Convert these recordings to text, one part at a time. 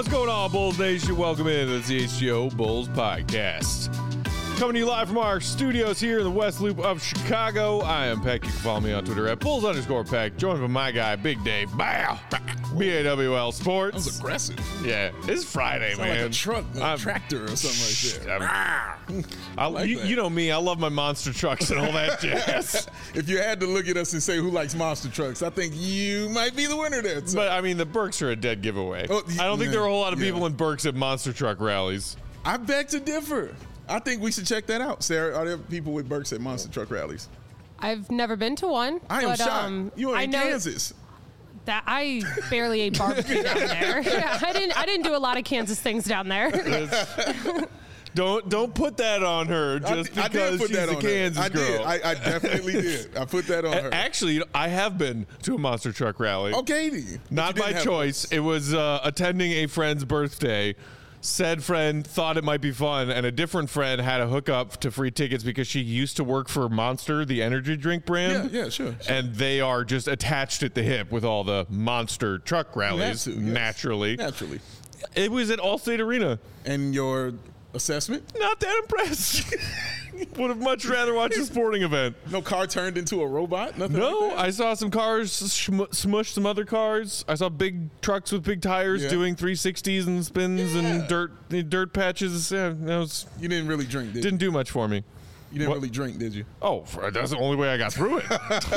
What's going on, Bulls Nation? Welcome into the CHGO Bulls Podcast. Coming to you live from our studios here in the West Loop of Chicago. I am Peck. You can follow me on Twitter at Bulls_Peck. Joined by my guy, Big Dave. Bow. BAWL Sports. That was aggressive. Yeah, it's Friday, Sound man. like a truck, tractor or something like that. You know me. I love my monster trucks and all that jazz. If you had to look at us and say who likes monster trucks, I think you might be the winner there. So. But, I mean, the Berks are a dead giveaway. Oh, I don't think there are a whole lot of people in Berks at monster truck rallies. I beg to differ. I think we should check that out. Sarah, are there people with Berks at monster truck rallies? I've never been to one. I am shocked. You are in Kansas. That I barely ate barbecue down there. Yeah, I didn't do a lot of Kansas things down there. Don't put that on her just because she's a Kansas girl. I definitely did. I put that on her. Actually, I have been to a monster truck rally. Okay, then. Not by choice. It was attending a friend's birthday. Said friend thought it might be fun, and a different friend had a hookup to free tickets because she used to work for Monster, the energy drink brand. Yeah, sure. And they are just attached at the hip with all the monster truck rallies, naturally. Naturally. It was at Allstate Arena. And your assessment? Not that impressed. Would have much rather watched a sporting event. No car turned into a robot? Nothing No, like that? I saw some cars smush some other cars. I saw big trucks with big tires doing 360s and spins and dirt patches. Yeah, you didn't really drink, did you? Didn't do much for me. You didn't really drink, did you? Oh, that's the only way I got through it.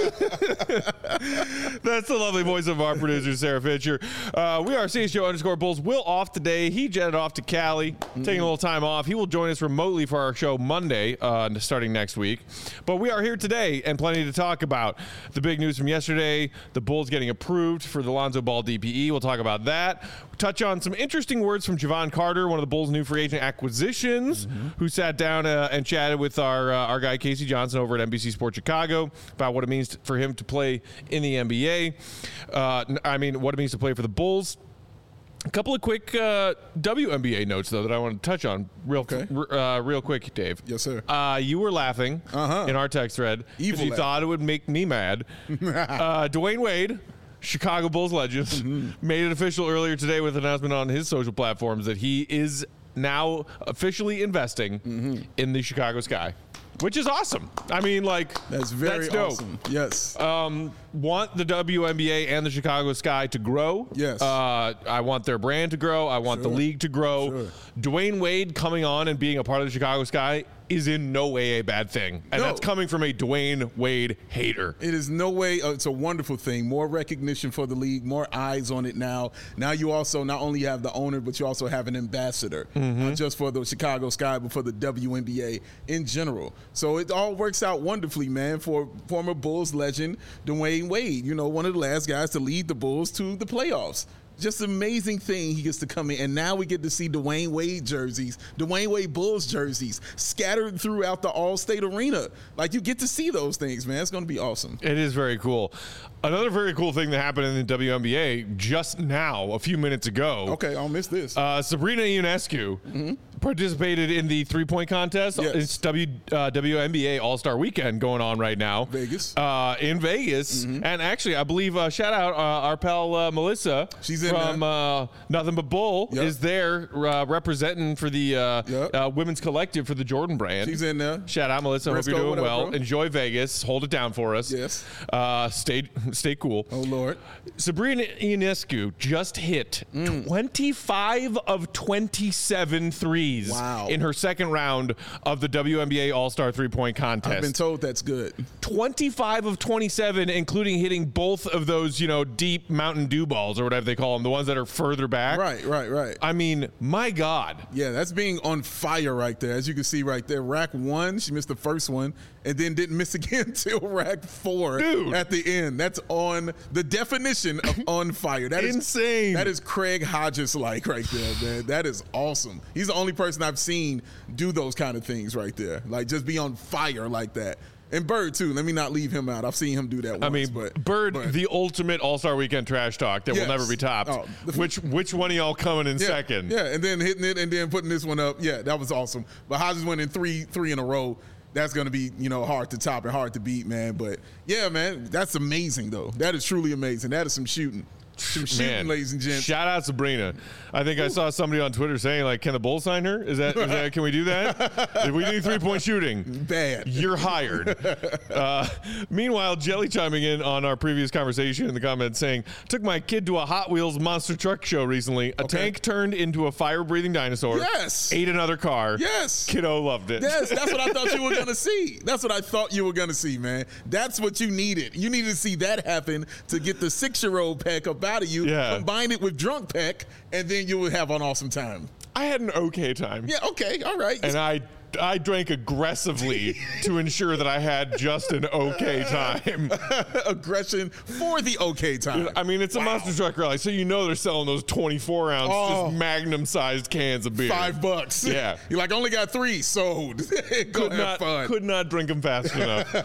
That's the lovely voice of our producer, Sarah Fisher. We are CHGO_Bulls. Will off today. He jetted off to Cali, taking a little time off. He will join us remotely for our show Monday, starting next week. But we are here today and plenty to talk about. The big news from yesterday, the Bulls getting approved for the Lonzo Ball DPE. We'll talk about that. We'll touch on some interesting words from Javon Carter, one of the Bulls' new free agent acquisitions, who sat down and chatted with our guy Casey Johnson over at NBC Sports Chicago about what it means for him to play in the NBA. What it means to play for the Bulls. A couple of quick WNBA notes, though, that I want to touch on real quick, Dave. Yes, sir. You were laughing in our text thread because you thought it would make me mad. Dwayne Wade, Chicago Bulls legend, made it official earlier today with an announcement on his social platforms that he is now officially investing in the Chicago Sky, which is awesome. I mean, that's very awesome. Yes. Want the WNBA and the Chicago Sky to grow. Yes. I want their brand to grow. I want the league to grow. Sure. Dwayne Wade coming on and being a part of the Chicago Sky is in no way a bad thing. And that's coming from a Dwayne Wade hater. It is no way. It's a wonderful thing. More recognition for the league, more eyes on it now. Now you also not only have the owner, but you also have an ambassador, not just for the Chicago Sky, but for the WNBA in general. So it all works out wonderfully, man, for former Bulls legend Dwayne Wade, one of the last guys to lead the Bulls to the playoffs. Just an amazing thing he gets to come in. And now we get to see Dwayne Wade jerseys, Dwayne Wade Bulls jerseys scattered throughout the All-State Arena. You get to see those things, man. It's going to be awesome. It is very cool. Another very cool thing that happened in the WNBA just now, a few minutes ago. Okay, I'll miss this. Sabrina Ionescu participated in the three-point contest. Yes. It's WNBA All-Star Weekend going on right now. Vegas. In Vegas. And actually, I believe, shout out our pal Melissa. She's from Nothing But Bull is there representing for the women's collective for the Jordan brand. She's in there. Shout out, Melissa. Briscoe, hope you're doing well. Bro? Enjoy Vegas. Hold it down for us. Yes. Stay cool. Oh, Lord. Sabrina Ionescu just hit 25 of 27 threes in her second round of the WNBA All-Star three-point contest. I've been told that's good. 25 of 27, including hitting both of those, deep Mountain Dew balls or whatever they call them, the ones that are further back. Right. I mean, my God. Yeah, that's being on fire right there. As you can see right there, rack 1, she missed the first one, and then didn't miss again until rack 4 at the end. That's on the definition of on fire. That is insane. That is Craig Hodges-like right there, man. That is awesome. He's the only person I've seen do those kind of things right there. Just be on fire like that. And Bird, too. Let me not leave him out. I've seen him do that once. I mean, Bird, the ultimate All-Star Weekend trash talk that will never be topped. Which one of y'all coming in second? Yeah, and then hitting it and then putting this one up. Yeah, that was awesome. But Hodges winning three in a row. That's going to be, hard to top and hard to beat, man. But, yeah, man, that's amazing, though. That is truly amazing. That is some shooting. Some shooting, ladies and gents. Shout out Sabrina. I think I saw somebody on Twitter saying, like, can the Bulls sign her? Is that can we do that? If we do 3-point shooting, bad. You're hired. Meanwhile, Jelly chiming in on our previous conversation in the comments saying, took my kid to a Hot Wheels monster truck show recently. A tank turned into a fire-breathing dinosaur. Yes. Ate another car. Yes. Kiddo loved it. Yes, that's what I thought you were going to see. That's what I thought you were going to see, man. That's what you needed. You needed to see that happen to get the 6-year-old Peck up out of you, combine it with drunk Peck, and then you would have an awesome time. I had an okay time. Yeah, okay, all right. And I drank aggressively to ensure that I had just an okay time. Aggression for the okay time. I mean, it's a monster truck rally, so you know they're selling those 24-ounce, just magnum-sized cans of beer. $5. Yeah. You're like, only got 3 sold. Go have fun. Could not drink them fast enough.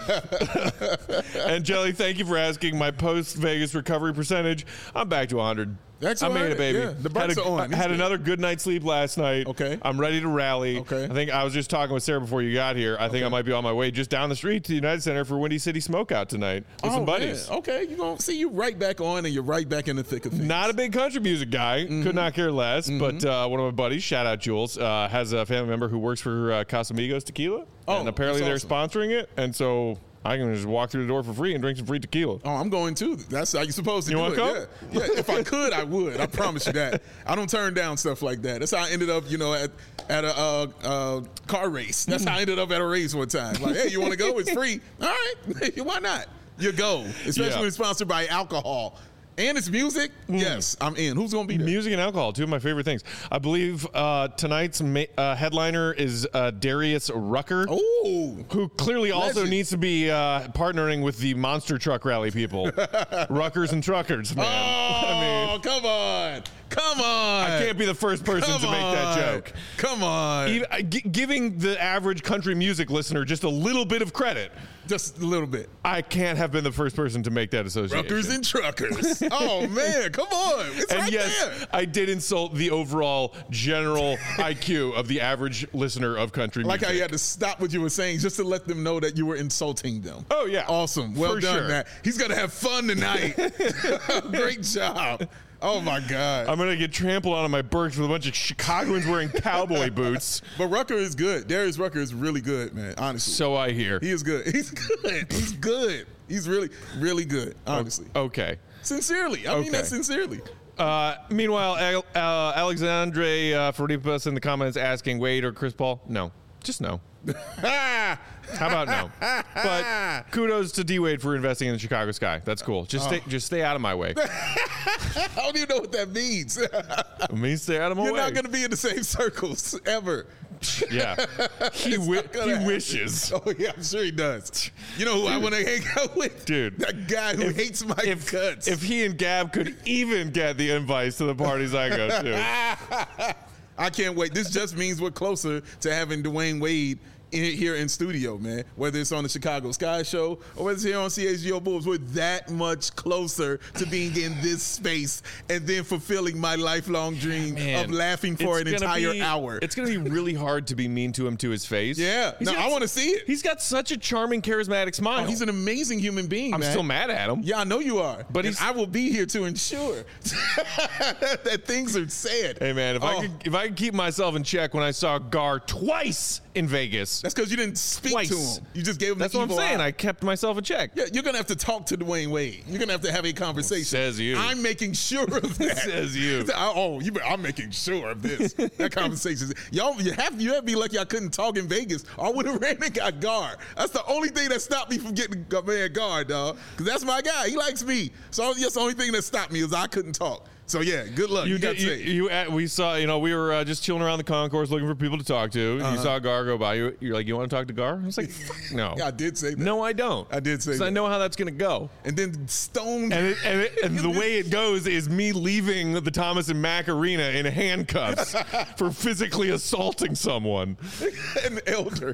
And Jelly, thank you for asking my post-Vegas recovery percentage. I'm back to 100. That's I made it, baby. Yeah, the brakes are on. Had another good night's sleep last night. Okay. I'm ready to rally. Okay. I think I was just talking with Sarah before you got here. I think I might be on my way just down the street to the United Center for Windy City Smokeout tonight with some buddies. Man. Okay, you're going to see you right back on, and you're right back in the thick of things. Not a big country music guy. Could not care less. But one of my buddies, shout out Jules, has a family member who works for Casamigos Tequila. And apparently they're sponsoring it. And so I can just walk through the door for free and drink some free tequila. Oh, I'm going too. That's how you're supposed to do it. Come? Yeah. If I could, I would. I promise you that. I don't turn down stuff like that. That's how I ended up, at a car race. That's how I ended up at a race one time. Like, hey, you want to go? It's free. All right. Why not? You go. Especially when it's sponsored by alcohol. And it's music? Yes, I'm in. Who's going to be there? Music and alcohol, two of my favorite things. I believe tonight's headliner is Darius Rucker, who clearly also needs to be partnering with the monster truck rally people. Ruckers and truckers, man. Come on. Come on. I can't be the first person to make that joke. Come on. Giving the average country music listener just a little bit of credit. Just a little bit. I can't have been the first person to make that association. Ruckers and truckers. Oh, man. Come on. It's and right yes, there. I did insult the overall general IQ of the average listener of country music. Like how you had to stop what you were saying just to let them know that you were insulting them. Oh, yeah. Awesome. Well For done, sure. Matt. He's going to have fun tonight. Great job. Oh, my God. I'm going to get trampled on my Berks with a bunch of Chicagoans wearing cowboy boots. But Rucker is good. Darius Rucker is really good, man, honestly. So I hear. He is good. He's good. He's good. He's really, really good, honestly. Okay. Sincerely. I mean that sincerely. Meanwhile, Alexandre Faripas in the comments asking Wade or Chris Paul. No. Just no. How about no? But kudos to D-Wade for investing in the Chicago Sky. That's cool. Just stay out of my way. I don't even know what that means. It means stay out of my way. You're not going to be in the same circles ever. Yeah. He wishes. Oh, yeah, I'm sure he does. You know who I want to hang out with? Dude. That guy who hates my guts. If he and Gab could even get the invites to the parties I go to. I can't wait. This just means we're closer to having Dwayne Wade here in studio, man. Whether it's on the Chicago Sky Show or whether it's here on CHGO Bulls, we're that much closer to being in this space and then fulfilling my lifelong dream of laughing for an entire hour. It's going to be really hard to be mean to him to his face. Yeah. I want to see it. He's got such a charming, charismatic smile. He's an amazing human being, I'm still mad at him. Yeah, I know you are. But I will be here to ensure that things are said. Hey, man, if I could keep myself in check when I saw Gar twice in Vegas. That's because you didn't speak to him. You just gave him That's the what I'm evil saying. eye. I kept myself in check. Yeah, you're going to have to talk to Dwayne Wade. You're going to have a conversation. Says you. I'm making sure of that. Says you. I'm making sure of this. That conversation. You have to be lucky I couldn't talk in Vegas. I would have ran and got Gar. That's the only thing that stopped me from getting man Gar, dog. Because that's my guy. He likes me. So that's the only thing that stopped me is I couldn't talk. So yeah, good luck. We saw, we were just chilling around the concourse looking for people to talk to. You saw Gar go by. You're like, you want to talk to Gar? I was like, fuck no. Yeah, I did say that. No, I don't. I did say that. I know how that's gonna go. And then stoned. And the way it goes is me leaving the Thomas and Mack Arena in handcuffs for physically assaulting someone. An elder.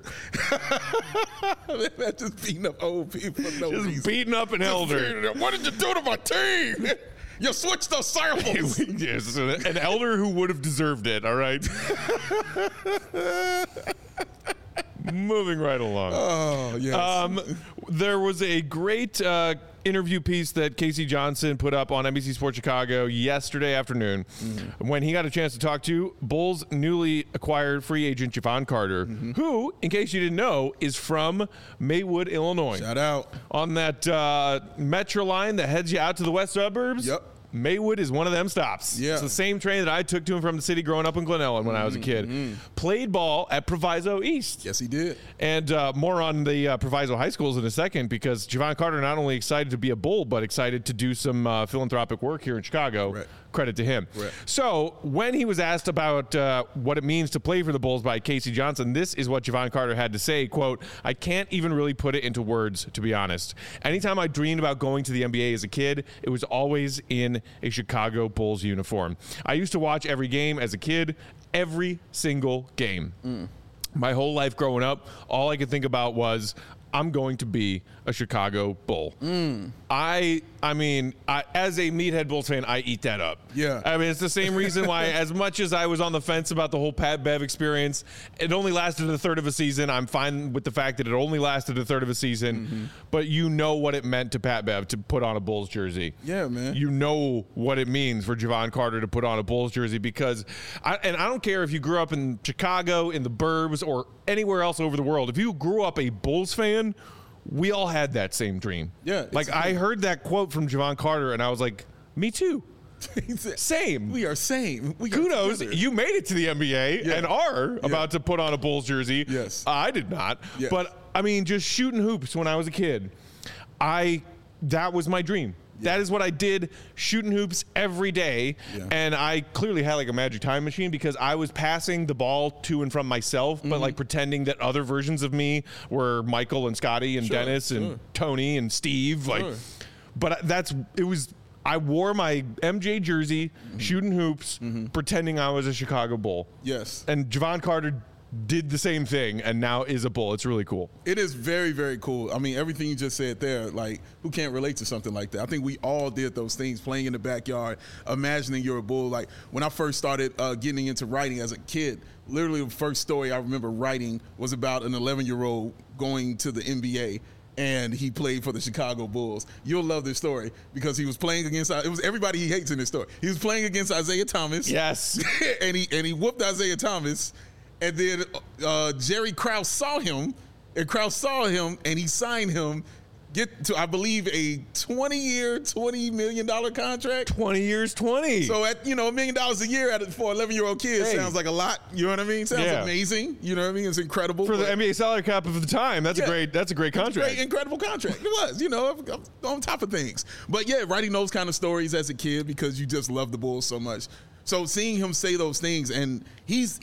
That's just beating up old people for no reason. Beating up an elder. What did you do to my team? You switched those circles. Yes, an elder who would have deserved it, all right? Moving right along. Oh, yes. There was a great interview piece that Casey Johnson put up on NBC Sports Chicago yesterday afternoon when he got a chance to talk to Bulls' newly acquired free agent Javon Carter, who, in case you didn't know, is from Maywood, Illinois. Shout out. On that Metro line that heads you out to the west suburbs. Yep. Maywood is one of them stops. Yeah. It's the same train that I took to him from the city growing up in Glen Ellen when I was a kid. Played ball at Proviso East. Yes, he did. And more on the Proviso High Schools in a second, because Javon Carter not only excited to be a Bull, but excited to do some philanthropic work here in Chicago. Right. Credit to him. Right. So when he was asked about what it means to play for the Bulls by Casey Johnson, this is what Javon Carter had to say, quote, "I can't even really put it into words, to be honest. Anytime I dreamed about going to the NBA as a kid, it was always in a Chicago Bulls uniform. I used to watch every game as a kid, every single game. My whole life growing up, all I could think about was, I'm going to be a Chicago Bull." I mean, as a Meathead Bulls fan, I eat that up. Yeah. I mean, it's the same reason why, as much as I was on the fence about the whole Pat Bev experience, it only lasted a third of a season. I'm fine with the fact that it only lasted a third of a season, but you know what it meant to Pat Bev to put on a Bulls jersey. Yeah, man. You know what it means for Javon Carter to put on a Bulls jersey, because, I don't care if you grew up in Chicago, in the burbs, or anywhere else over the world. If you grew up a Bulls fan, we all had that same dream. Yeah. Like, I heard that quote from Javon Carter, and I was like, me too. Same. We are same. We are Kudos, together. you made it to the NBA and are about to put on a Bulls jersey. Yes. I did not. Yes. But, I mean, just shooting hoops when I was a kid, that was my dream. That is what I did, shooting hoops every day. Yeah. And I clearly had like a magic time machine, because I was passing the ball to and from myself, but like pretending that other versions of me were Michael and Scotty and Dennis and Tony and Steve. Like, but I wore my MJ jersey, shooting hoops, pretending I was a Chicago Bull. Yes. And Javon Carter did the same thing and now is a Bull. It's really cool. It is very, very cool. I mean, everything you just said there, like, who can't relate to something like that? I think we all did those things, playing in the backyard, imagining you're a Bull. Like, when I first started getting into writing as a kid, literally the first story I remember writing was about an 11-year-old going to the NBA, and he played for the Chicago Bulls. You'll love this story, because he was playing against, it was everybody he hates in this story. He was playing against Isaiah Thomas. Yes. and he whooped Isaiah Thomas. And then Jerry Krause saw him, and he signed him, get to, I believe, a 20-year, $20 million contract. 20 years, 20. So at $1 million a year for an 11-year-old kid sounds like a lot. You know what I mean? Sounds amazing. You know what I mean? It's incredible for the NBA salary cap of the time. That's a great contract. Great, incredible contract. It was. You know, on top of things. But yeah, writing those kind of stories as a kid because you just love the Bulls so much. So seeing him say those things, and he's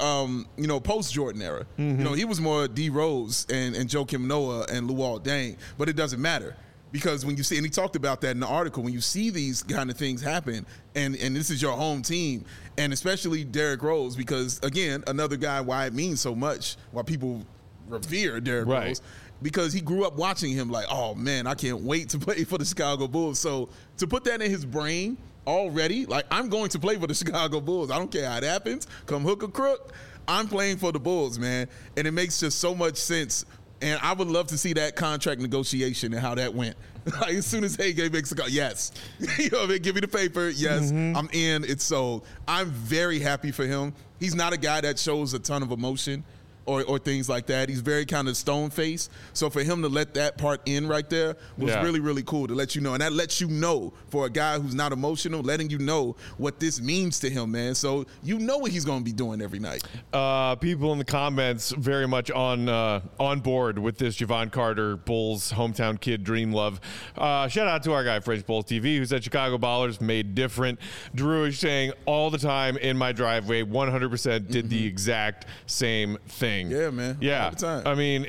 post Jordan era. You know, he was more D Rose and Joakim Noah and Luol Deng, but it doesn't matter, because when you see, and he talked about that in the article, when you see these kind of things happen, and this is your home team, and especially Derrick Rose, because again, another guy why it means so much, why people revere Derrick Rose. Because he grew up watching him like, oh man, I can't wait to play for the Chicago Bulls. So to put that in his brain already, like, I'm going to play for the Chicago Bulls. I don't care how it happens. Come hook or crook, I'm playing for the Bulls, man. And it makes just so much sense. And I would love to see that contract negotiation and how that went. Like, as soon as Hague makes a call, yes. You know what I mean? Give me the paper. Yes, I'm in. It's sold. I'm very happy for him. He's not a guy that shows a ton of emotion or things like that. He's very kind of stone-faced. So for him to let that part in right there was really, really cool, to let you know. And that lets you know, for a guy who's not emotional, letting you know what this means to him, man. So you know what he's going to be doing every night. People in the comments very much on board with this Javon Carter Bulls hometown kid dream love. Shout out to our guy French Bulls TV, who said Chicago Ballers made different. Drew is saying all the time in my driveway, 100% did the exact same thing. Yeah, man. Yeah. All the time. I mean,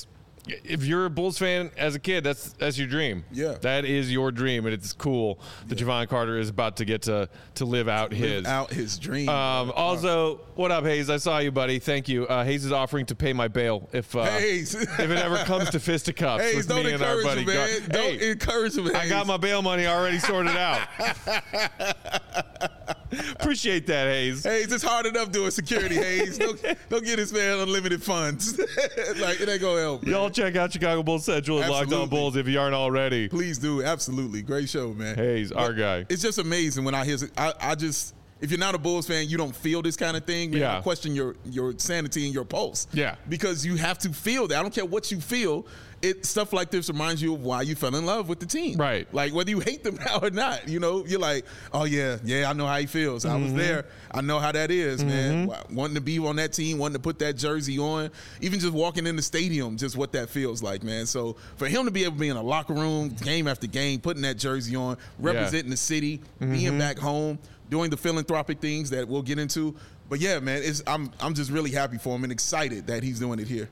if you're a Bulls fan as a kid, that's your dream. Yeah. That is your dream, and it's cool that Javon Carter is about to get to live out his dream. Also, what up, Hayes? I saw you, buddy. Thank you. Hayes is offering to pay my bail if it ever comes to fisticuffs Hayes, with me and our buddy. Don't encourage him, Hayes. I got my bail money already sorted out. Appreciate that, Hayes. Hayes, it's hard enough doing security, Hayes. Don't get this man unlimited funds. Like, it ain't going to help. Man. Y'all check out Chicago Bulls Central and Locked On Bulls if you aren't already. Please do. Absolutely. Great show, man. Hayes, our guy. It's just amazing when I hear if you're not a Bulls fan, you don't feel this kind of thing. Man, I question your sanity and your pulse. Yeah. Because you have to feel that. I don't care what you feel. Stuff like this reminds you of why you fell in love with the team. Right. Like, whether you hate them now or not, you know, you're like, oh, yeah, I know how he feels. I was there. I know how that is, man. Wanting to be on that team, wanting to put that jersey on, even just walking in the stadium, just what that feels like, man. So for him to be able to be in a locker room, game after game, putting that jersey on, representing the city, being back home, doing the philanthropic things that we'll get into. But, yeah, man, I'm just really happy for him and excited that he's doing it here.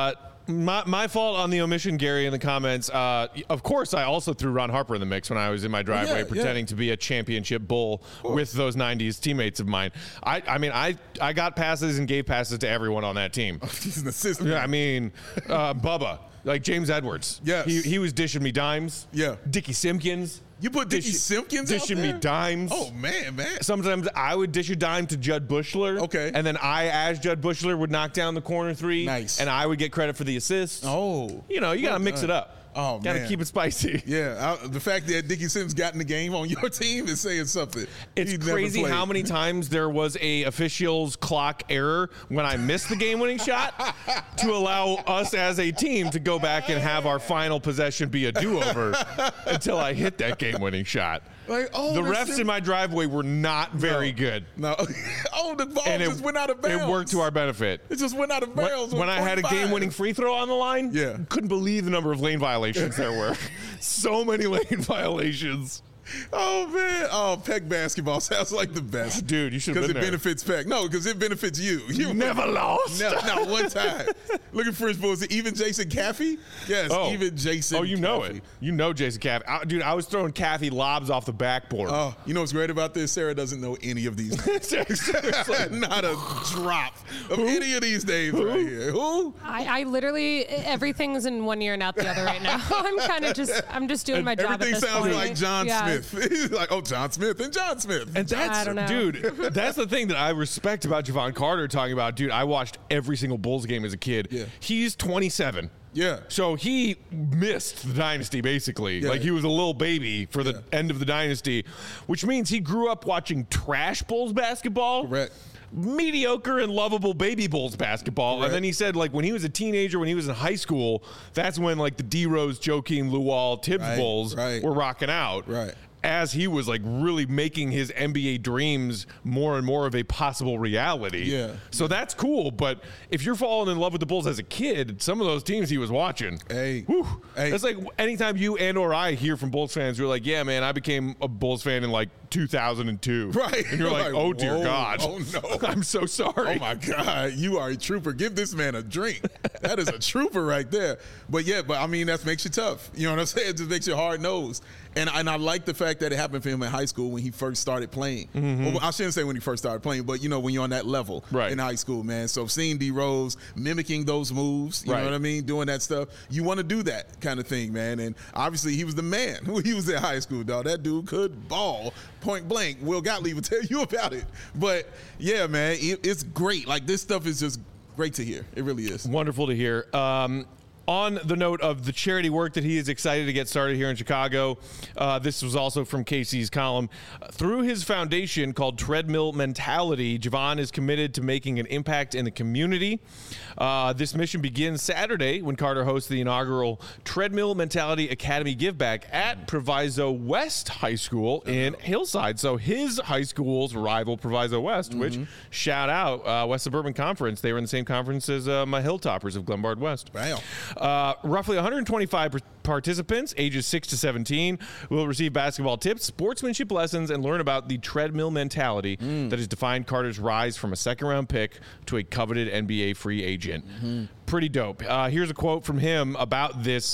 My fault on the omission, Gary, in the comments. Of course, I also threw Ron Harper in the mix when I was in my driveway pretending to be a championship Bull with those 90s teammates of mine. I mean, I got passes and gave passes to everyone on that team. He's an assistant. Yeah, I mean, Bubba, like James Edwards. Yes. He was dishing me dimes. Yeah. Dickie Simpkins. You put Dickie Simpkins out dishing there? me dimes. Oh, man. Sometimes I would dish a dime to Judd Bushler. Okay. And then as Judd Bushler, would knock down the corner three. Nice. And I would get credit for the assist. Oh. You know, you got to mix it up. Oh, man. Got to keep it spicy. Yeah. The fact that Dickie Sims got in the game on your team is saying something. It's crazy how many times there was a official's clock error when I missed the game-winning shot to allow us as a team to go back and have our final possession be a do-over until I hit that game-winning shot. Like, the refs in my driveway were not very good. No. The ball just went out of bounds. It worked to our benefit. It just went out of bounds. When I had a game-winning free throw on the line, couldn't believe the number of lane violations there were. So many lane violations. Oh, man. Oh, Peck basketball sounds like the best. Dude, you should have been there. Because it benefits Peck. No, because it benefits you. You never lost. Not one time. Look at French Bulls. Even Jason Caffey? Yes, even Jason Oh, you know Caffey. it. You know Jason Caffey. Dude, I was throwing Caffey lobs off the backboard. Oh, you know what's great about this? Sarah doesn't know any of these names. Not a drop of any of these names right here. Who? I literally, everything's in one ear and out the other right now. I'm just doing my job at this Everything sounds point. like John Smith. He's like, oh, John Smith and John Smith. And I don't know. dude, that's the thing that I respect about Javon Carter talking about. Dude, I watched every single Bulls game as a kid. Yeah. He's 27. Yeah. So he missed the dynasty, basically. Yeah. Like, he was a little baby for the end of the dynasty, which means he grew up watching trash Bulls basketball. Correct. Mediocre and lovable baby Bulls basketball. Correct. And then he said, like, when he was a teenager, when he was in high school, that's when, like, the D-Rose, Joakim, Luol, Tibbs Bulls were rocking out. Right. As he was like really making his NBA dreams more and more of a possible reality. Yeah. So that's cool. But if you're falling in love with the Bulls as a kid, some of those teams he was watching. Hey. That's like anytime you and or I hear from Bulls fans who are like, yeah, man, I became a Bulls fan in like 2002. Right. And you're like, oh, dear God. Oh, no. I'm so sorry. Oh, my God. You are a trooper. Give this man a drink. That is a trooper right there. But, I mean, that makes you tough. You know what I'm saying? It just makes you hard-nosed. And I like the fact that it happened for him in high school when he first started playing. Well, I shouldn't say when he first started playing, but, when you're on that level in high school, man. So seeing D-Rose mimicking those moves, you know what I mean, doing that stuff, you want to do that kind of thing, man. And obviously he was the man when he was in high school, dog. That dude could ball point blank. Will Gottlieb will tell you about it. But, yeah, man, it's great. Like, this stuff is just great to hear. It really is. Wonderful to hear. On the note of the charity work that he is excited to get started here in Chicago, this was also from Casey's column. Through his foundation called Treadmill Mentality, Javon is committed to making an impact in the community. This mission begins Saturday when Carter hosts the inaugural Treadmill Mentality Academy Giveback at Proviso West High School in Hillside. So his high school's rival, Proviso West, which, shout out, West Suburban Conference. They were in the same conference as my Hilltoppers of Glenbard West. Wow. Roughly 125 participants, ages 6 to 17, will receive basketball tips, sportsmanship lessons, and learn about the treadmill mentality that has defined Carter's rise from a second-round pick to a coveted NBA free agent. pretty dope. Here's a quote from him about this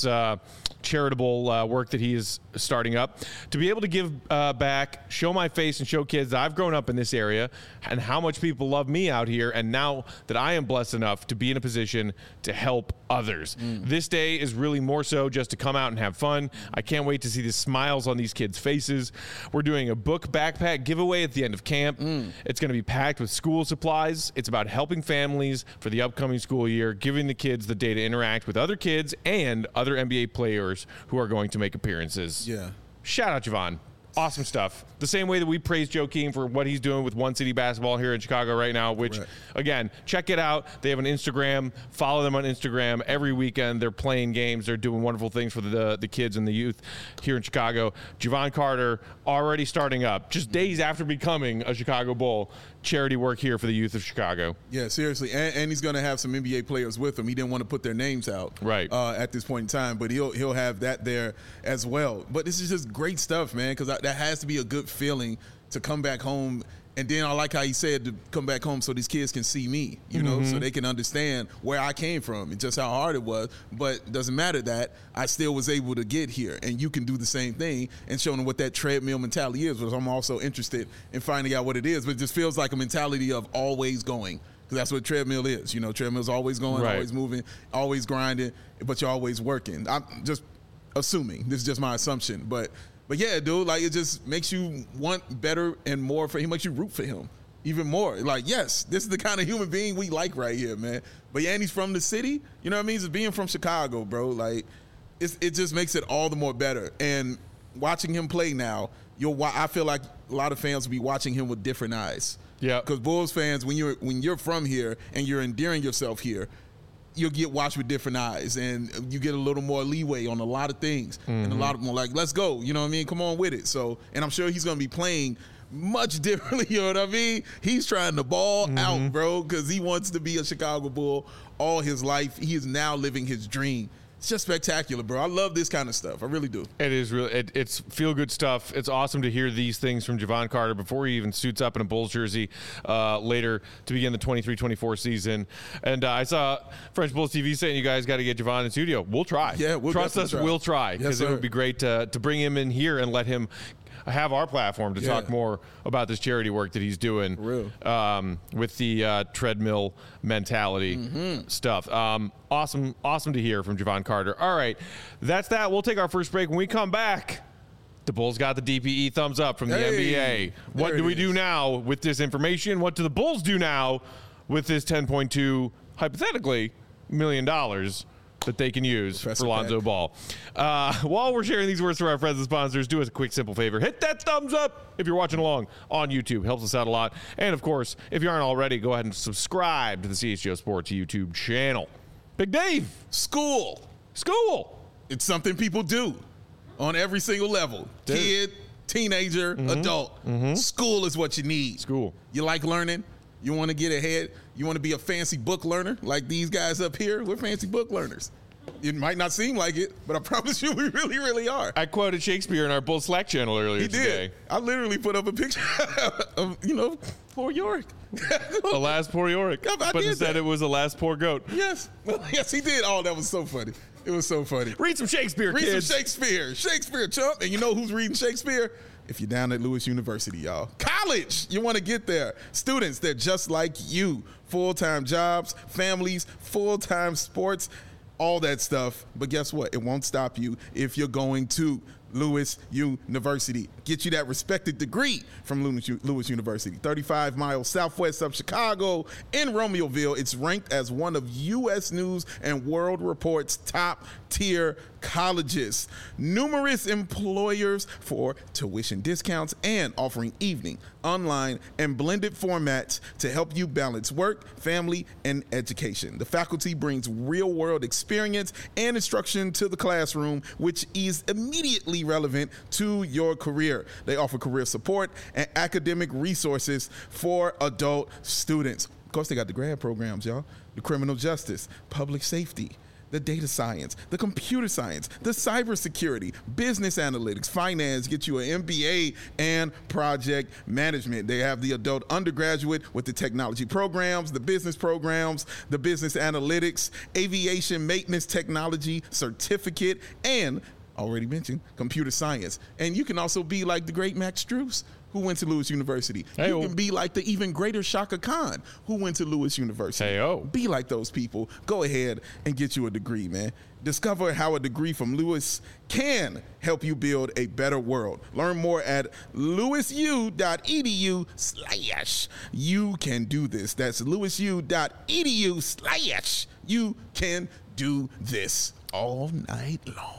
charitable work that he is starting up. To be able to give back, show my face, and show kids that I've grown up in this area and how much people love me out here, and now that I am blessed enough to be in a position to help others. This day is really more so just to come out and have fun. I can't wait to see the smiles on these kids' faces. We're doing a book backpack giveaway at the end of camp. It's going to be packed with school supplies. It's about helping families for the upcoming school year, giving the kids the day to interact with other kids and other NBA players who are going to make appearances. Yeah. Shout out Javon. Awesome stuff. The same way that we praise Joakim for what he's doing with One City Basketball here in Chicago right now, which, again, check it out. They have an Instagram. Follow them on Instagram. Every weekend they're playing games. They're doing wonderful things for the kids and the youth here in Chicago. Javon Carter already starting up, just days after becoming a Chicago Bull, charity work here for the youth of Chicago. Yeah, seriously. And he's going to have some NBA players with him. He didn't want to put their names out at this point in time, but he'll have that there as well. But this is just great stuff, man, because that has to be a good feeling to come back home. And then I like how he said to come back home so these kids can see me, you know, so they can understand where I came from and just how hard it was. But it doesn't matter that I still was able to get here. And you can do the same thing and show them what that treadmill mentality is, which I'm also interested in finding out what it is. But it just feels like a mentality of always going. Because that's what treadmill is. You know, treadmill's always going, always moving, always grinding, but you're always working. I'm just assuming. This is just my assumption. But yeah, dude, like it just makes you want better and more for him. Makes you root for him even more. Like, yes, this is the kind of human being we like right here, man. But yeah, and he's from the city. You know what I mean? Just being from Chicago, bro. Like, it just makes it all the more better. And watching him play now, I feel like a lot of fans will be watching him with different eyes. Yeah. Because Bulls fans, when you're from here and you're endearing yourself here, you'll get watched with different eyes, and you get a little more leeway on a lot of things, and a lot of more like, let's go, you know what I mean? Come on with it. So, and I'm sure he's going to be playing much differently, you know what I mean? He's trying to ball out, bro, because he wants to be a Chicago Bull all his life. He is now living his dream. It's just spectacular, bro. I love this kind of stuff. I really do. It is really, it's feel-good stuff. It's awesome to hear these things from Javon Carter before he even suits up in a Bulls jersey later to begin the 23-24 season. And I saw French Bulls TV saying you guys got to get Javon in studio. We'll try. Yeah, we'll trust us. Try. We'll try, because it would be great to bring him in here and let him have our platform to talk more about this charity work that he's doing with the treadmill mentality stuff. Awesome to hear from Javon Carter. All right, that's that. We'll take our first break. When we come back, the Bulls got the DPE thumbs up from the NBA. What do we do now with this information? What do the Bulls do now with this $10.2, hypothetically, $1 million that they can use for Lonzo Ball? While we're sharing these words for our friends and sponsors, do us a quick, simple favor. Hit that thumbs up if you're watching along on YouTube. Helps us out a lot. And, of course, if you aren't already, go ahead and subscribe to the CHGO Sports YouTube channel. Big Dave. School. It's something people do on every single level. Kid, teenager, adult. School is what you need. School. You like learning? You want to get ahead? You want to be a fancy book learner like these guys up here? We're fancy book learners. It might not seem like it, but I promise you we really, really are. I quoted Shakespeare in our Bull Slack channel earlier today. I literally put up a picture of, poor Yorick. Alas, poor Yorick. But instead it was alas, poor goat. Yes. Well, yes, he did. Oh, that was so funny. It was so funny. Read some Shakespeare, kids. Read some Shakespeare. Shakespeare, chump. And you know who's reading Shakespeare? If you're down at Lewis University, y'all. College, you want to get there. Students, they're just like you. Full-time jobs, families, full-time sports, all that stuff. But guess what? It won't stop you if you're going to Lewis University. Get you that respected degree from Lewis University. 35 miles southwest of Chicago in Romeoville. It's ranked as one of U.S. News and World Report's top-tier colleges. Numerous employers for tuition discounts and offering evening, online, and blended formats to help you balance work, family, and education. The faculty brings real-world experience and instruction to the classroom, which is immediately relevant to your career. They offer career support and academic resources for adult students. Of course, they got the grad programs, y'all. The criminal justice, public safety, the data science, the computer science, the cybersecurity, business analytics, finance, get you an MBA and project management. They have the adult undergraduate with the technology programs, the business programs, the business analytics, aviation maintenance technology certificate, and already mentioned computer science. And you can also be like the great Max Strus, who went to Lewis University. Hey-o. You can be like the even greater Shaka Khan, who went to Lewis University. Hey-o. Be like those people. Go ahead and get you a degree, man. Discover how a degree from Lewis can help you build a better world. Learn more at lewisu.edu/you can do this. That's lewisu.edu/you can do this all night long.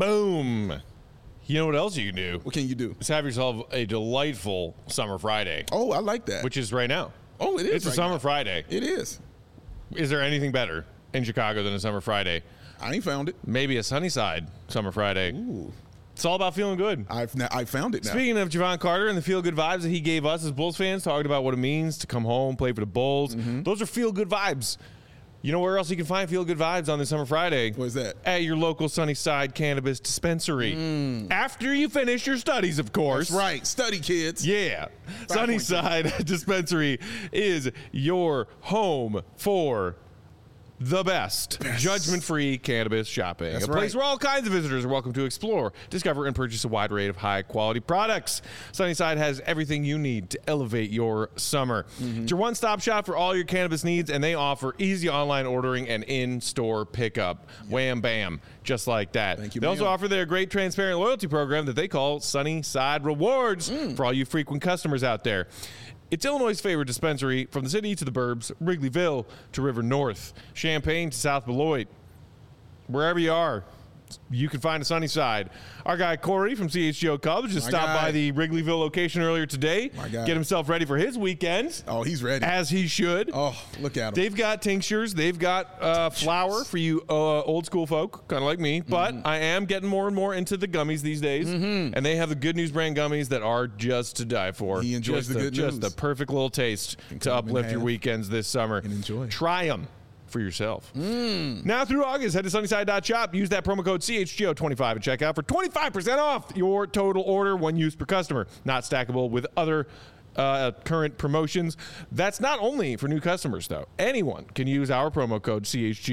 Boom. You know what else you can do? What can you do? Is have yourself a delightful summer Friday, Oh, I like that. which is right now. Oh, it is. It's a right summer now. Friday. It is. Is there anything better in Chicago than a summer Friday? I ain't found it. Maybe a Sunnyside summer Friday. Ooh. It's all about feeling good. I found it now. Speaking of Javon Carter and the feel-good vibes that he gave us as Bulls fans, talking about what it means to come home, play for the Bulls, those are feel-good vibes. You know where else you can find feel-good vibes on this summer Friday? Where's that? At your local Sunnyside Cannabis Dispensary. After you finish your studies, of course. That's right. Study, kids. Yeah. Sunnyside Dispensary is your home for the best. Judgment-free cannabis shopping. That's a place right. where all kinds of visitors are welcome to explore, discover, and purchase a wide array of high-quality products. Sunnyside has everything you need to elevate your summer. It's your one-stop shop for all your cannabis needs, and they offer easy online ordering and in-store pickup. Wham, bam. Just like that. Thank you, They also ma'am. offer their great transparent loyalty program that they call Sunnyside Rewards for all you frequent customers out there. It's Illinois' favorite dispensary, from the city to the burbs, Wrigleyville to River North, Champaign to South Beloit. Wherever you are, you can find a Sunnyside. Our guy Corey from CHGO Cubs just My stopped guy. by the Wrigleyville location earlier today. My guy. Get himself ready for his weekend, Oh, he's ready. as he should. Oh, look at him. They've got tinctures. They've got flour for you old school folk, kind of like me. But I am getting more and more into the gummies these days. And they have the Good News brand gummies that are just to die for. He enjoys just the good Just news. the perfect little taste to cut 'em in uplift your half weekends this summer. and enjoy. Try them for yourself. Now through August, head to sunnyside.shop. Use that promo code CHGO25 at checkout for 25% off your total order, one use per customer. Not stackable with other current promotions. That's not only for new customers, though. Anyone can use our promo code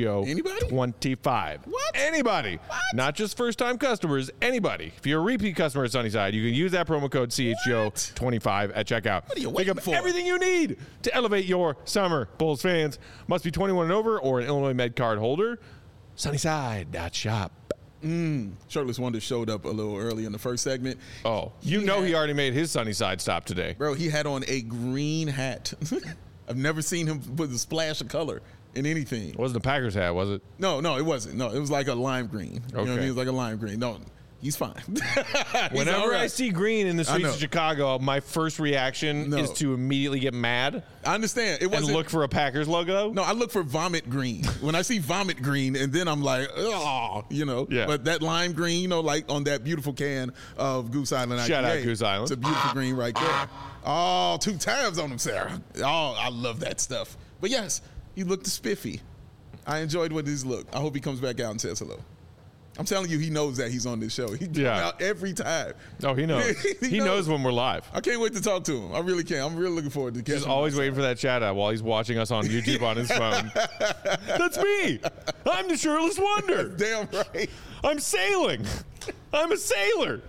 CHGO25. What? Anybody. What? Not just first-time customers. Anybody. If you're a repeat customer at Sunnyside, you can use that promo code CHGO25 at checkout. What are you Pick waiting up for? everything you need to elevate your summer. Bulls fans must be 21 and over or an Illinois Med card holder. Sunnyside.shop. Shirtless Wonder showed up a little early in the first segment. Oh, you know he already made his Sunnyside stop today. Bro, he had on a green hat. I've never seen him put a splash of color in anything. It wasn't a Packers hat, was it? No, it wasn't. No, it was like a lime green. You know what I Okay. mean? It was like a lime green. No, he's fine. He's Whenever all right. I see green in the streets know. of Chicago, my first reaction No. is to immediately get mad I understand. It and wasn't. look for a Packers logo. No, I look for vomit green. When I see vomit green, and then I'm like, oh, you know. Yeah. But that lime green, you know, like on that beautiful can of Goose Island IPA. Shout out Goose Island. It's a beautiful green right there. Oh, 2 tabs on him, Sarah. Oh, I love that stuff. But yes, he looked spiffy. I enjoyed what his look. I hope he comes back out and says hello. I'm telling you, he knows that he's on this show. He comes Yeah. out every time. Oh, he knows. he knows when we're live. I can't wait to talk to him. I really can't. I'm really looking forward to catching Just him. always waiting for that chat out while he's watching us on YouTube on his phone. That's me. I'm the Shirtless Wonder. Damn right. I'm sailing. I'm a sailor.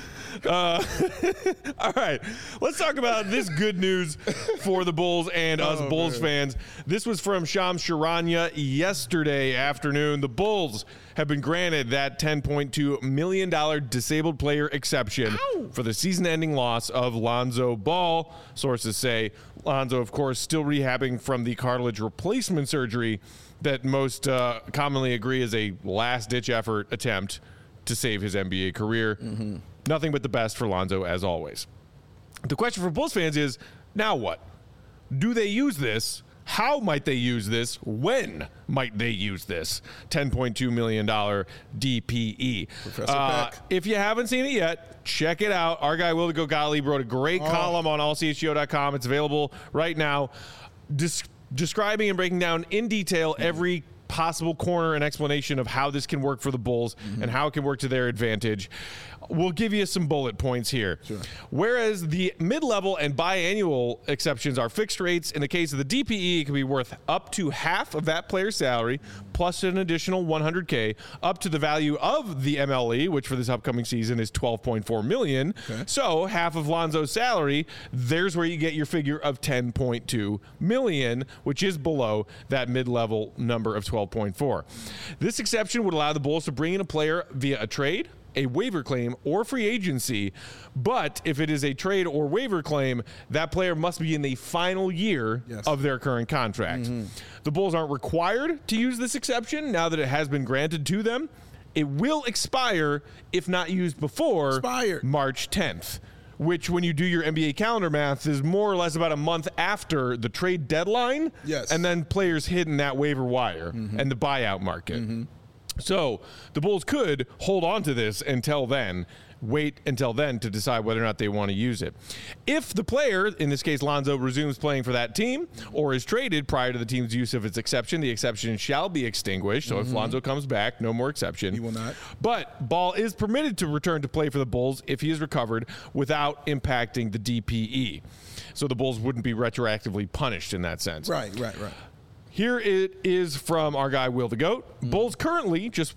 All right, let's talk about this good news for the Bulls and us Bulls fans. This was from Shams Charania yesterday afternoon. The Bulls have been granted that $10.2 million disabled player exception for the season-ending loss of Lonzo Ball. Sources say Lonzo, of course, still rehabbing from the cartilage replacement surgery that most commonly agree is a last-ditch effort attempt to save his NBA career. Nothing but the best for Lonzo, as always. The question for Bulls fans is, now what? Do they use this? How might they use this? When might they use this $10.2 million DPE? Professor Peck. If you haven't seen it yet, check it out. Our guy, Will Gogali, wrote a great column on allchgo.com. It's available right now, describing and breaking down in detail every possible corner and explanation of how this can work for the Bulls and how it can work to their advantage. We'll give you some bullet points here. Sure. Whereas the mid-level and biannual exceptions are fixed rates, in the case of the DPE, it can be worth up to half of that player's salary plus an additional $100K up to the value of the MLE, which for this upcoming season is $12.4 million. Okay. So half of Lonzo's salary, there's where you get your figure of $10.2 million, which is below that mid-level number of 12.4. This exception would allow the Bulls to bring in a player via a trade, a waiver claim, or free agency. But if it is a trade or waiver claim, that player must be in the final year of their current contract. The Bulls aren't required to use this exception now that it has been granted to them. It will expire if not used before March 10th. Which, when you do your NBA calendar math, is more or less about a month after the trade deadline. Yes. And then players hitting that waiver wire and the buyout market. So the Bulls could hold on to this until then, wait until then to decide whether or not they want to use it. If the player, in this case Lonzo, resumes playing for that team or is traded prior to the team's use of its exception, the exception shall be extinguished. So if Lonzo comes back, no more exception. He will not. But Ball is permitted to return to play for the Bulls if he is recovered without impacting the DPE. So the Bulls wouldn't be retroactively punished in that sense. Right. Here it is from our guy, Will the Goat. Bulls currently just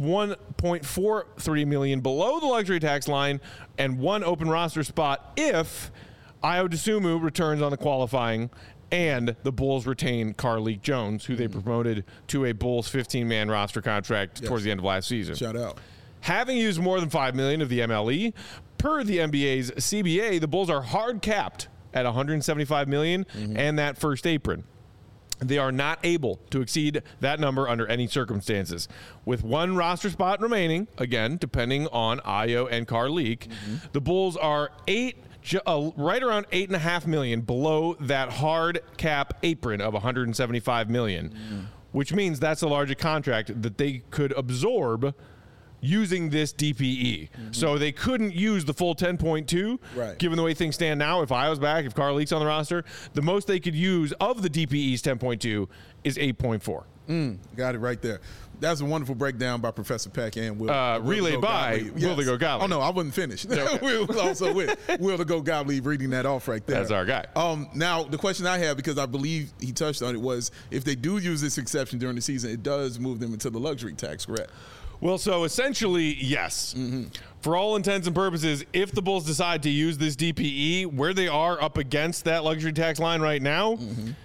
$1.43 million below the luxury tax line and one open roster spot if Ayo Dosunmu returns on the qualifying and the Bulls retain Carlik Jones, who they promoted to a Bulls 15-man roster contract towards the end of last season. Shout out. Having used more than $5 million of the MLE, per the NBA's CBA, the Bulls are hard capped at $175 million and that first apron. They are not able to exceed that number under any circumstances. With one roster spot remaining, again, depending on Ayo and Carlik, the Bulls are right around $8.5 million below that hard cap apron of $175 million, which means that's a larger contract that they could absorb using this DPE. So they couldn't use the full 10.2, given the way things stand now. If Ayo's back, if Carlik's on the roster, the most they could use of the DPE's 10.2 is 8.4. Got it right there. That's a wonderful breakdown by Professor Peck and Will. Relayed by Will the Go Gottlieb. Oh, no, I wasn't finished. Okay. We was also with Will the Go Gottlieb reading that off right there. That's our guy. Now, the question I have, because I believe he touched on it, was if they do use this exception during the season, it does move them into the luxury tax, correct? Well, so essentially, yes. For all intents and purposes, if the Bulls decide to use this DPE, where they are up against that luxury tax line right now,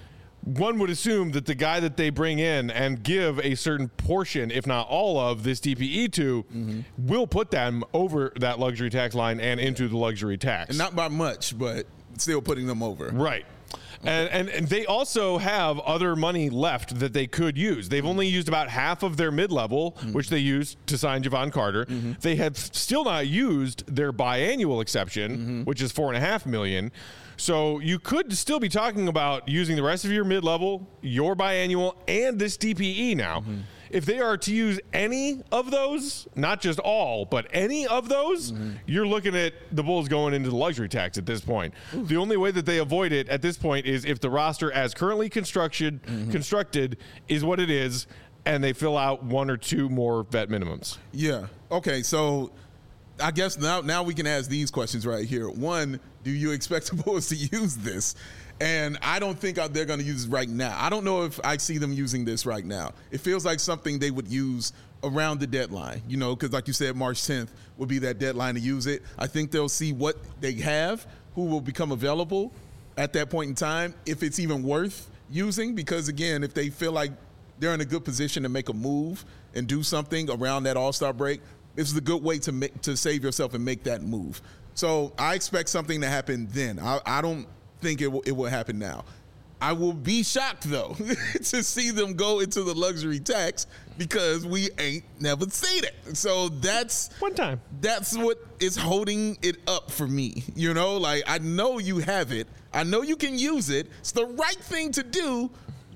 one would assume that the guy that they bring in and give a certain portion, if not all of this DPE to, will put them over that luxury tax line and into the luxury tax. And not by much, but still putting them over. Right. And they also have other money left that they could use. They've only used about half of their mid-level, which they used to sign Javon Carter. They have still not used their biannual exception, which is $4.5 million. So you could still be talking about using the rest of your mid-level, your biannual, and this DPE now. If they are to use any of those, not just all, but any of those, you're looking at the Bulls going into the luxury tax at this point. The only way that they avoid it at this point is if the roster as currently constructed is what it is, and they fill out one or two more vet minimums. Yeah. Okay, so I guess now we can ask these questions right here. One, do you expect the Bulls to use this? And I don't think they're going to use it right now. I don't know if I see them using this right now. It feels like something they would use around the deadline, because like you said, March 10th would be that deadline to use it. I think they'll see what they have, who will become available at that point in time, if it's even worth using. Because, again, if they feel like they're in a good position to make a move and do something around that All-Star break, this is a good way to save yourself and make that move. So I expect something to happen then. I don't think it will happen now. I will be shocked, though, to see them go into the luxury tax because we ain't never seen it. So that's one time. That's what is holding it up for me. Like, I know you have it. I know you can use it. It's the right thing to do.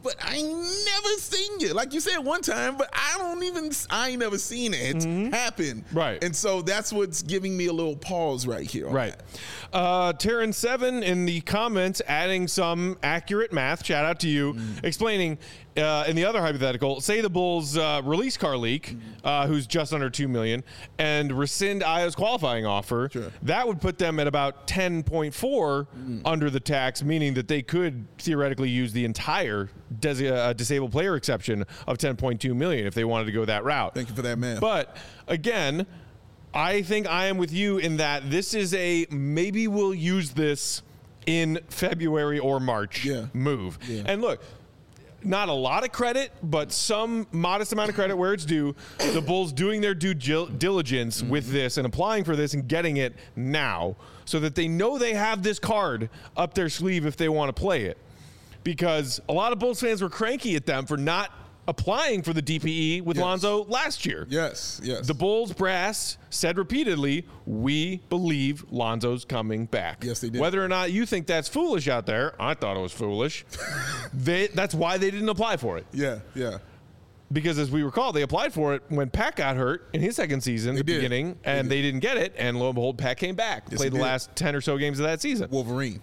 but I ain't never seen you. Like you said one time, but I ain't never seen it happen. Right. And so that's what's giving me a little pause right here. Right. Terran7 in the comments adding some accurate math. Shout out to you. Explaining in the other hypothetical, say the Bulls release Carlik, who's just under $2 million, and rescind Ayo's qualifying offer. Sure. That would put them at about 10.4 under the tax, meaning that they could theoretically use the entire disabled player exception of 10.2 million if they wanted to go that route. Thank you for that, man. But again, I think I am with you in that this is a maybe we'll use this in February or March move. Yeah. And look, not a lot of credit, but some modest amount of credit where it's due. The Bulls doing their due diligence with this and applying for this and getting it now so that they know they have this card up their sleeve if they want to play it. Because a lot of Bulls fans were cranky at them for not applying for the DPE with Lonzo last year. Yes. The Bulls brass said repeatedly, we believe Lonzo's coming back. Yes, they did. Whether or not you think that's foolish out there, I thought it was foolish. That's why they didn't apply for it. Yeah. Because as we recall, they applied for it when Pat got hurt in his second season at the beginning, and they didn't get it, and lo and behold, Pat came back, played the last 10 or so games of that season. Wolverine.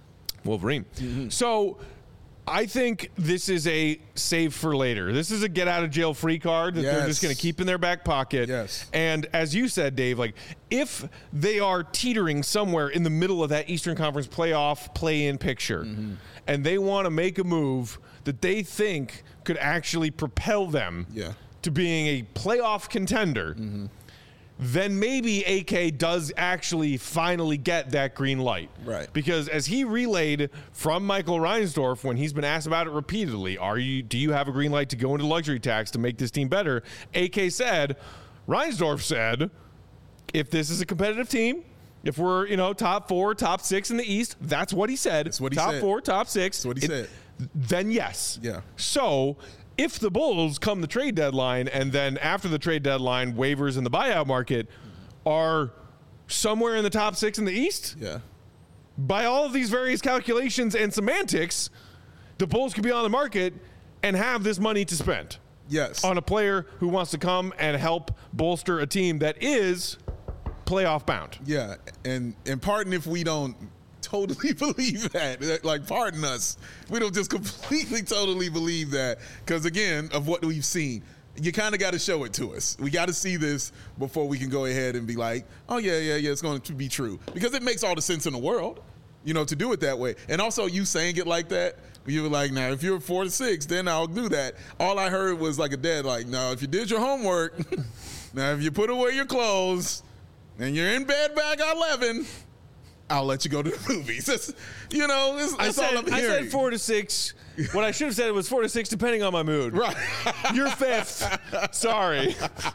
So I think this is a save for later. This is a get out of jail free card that they're just going to keep in their back pocket. Yes. And as you said, Dave, like if they are teetering somewhere in the middle of that Eastern Conference playoff play-in picture and they want to make a move that they think could actually propel them to being a playoff contender, then maybe AK does actually finally get that green light. Right. Because as he relayed from Michael Reinsdorf when he's been asked about it repeatedly, do you have a green light to go into luxury tax to make this team better? AK said, Reinsdorf said, if this is a competitive team, if we're, top 4, top 6 in the East, that's what he said. That's what he top said. 4, top 6. That's what he said. Then yes. Yeah. So if the Bulls come the trade deadline and then after the trade deadline, waivers in the buyout market are somewhere in the top 6 in the East, by all of these various calculations and semantics, the Bulls could be on the market and have this money to spend. Yes. On a player who wants to come and help bolster a team that is playoff bound. Yeah. And pardon if we don't totally believe that. Like, pardon us. We don't just completely, totally believe that. Because, again, of what we've seen, you kind of got to show it to us. We got to see this before we can go ahead and be like, oh, yeah, it's going to be true. Because it makes all the sense in the world, to do it that way. And also, you saying it like that, you were like, now, if you're 4-6, then I'll do that. All I heard was like a dad, like, no, if you did your homework, now, if you put away your clothes, and you're in bed back at 11, I'll let you go to the movies. That's all I'm hearing. I said 4-6. What I should have said was 4-6, depending on my mood. Right. You're 5th. Sorry.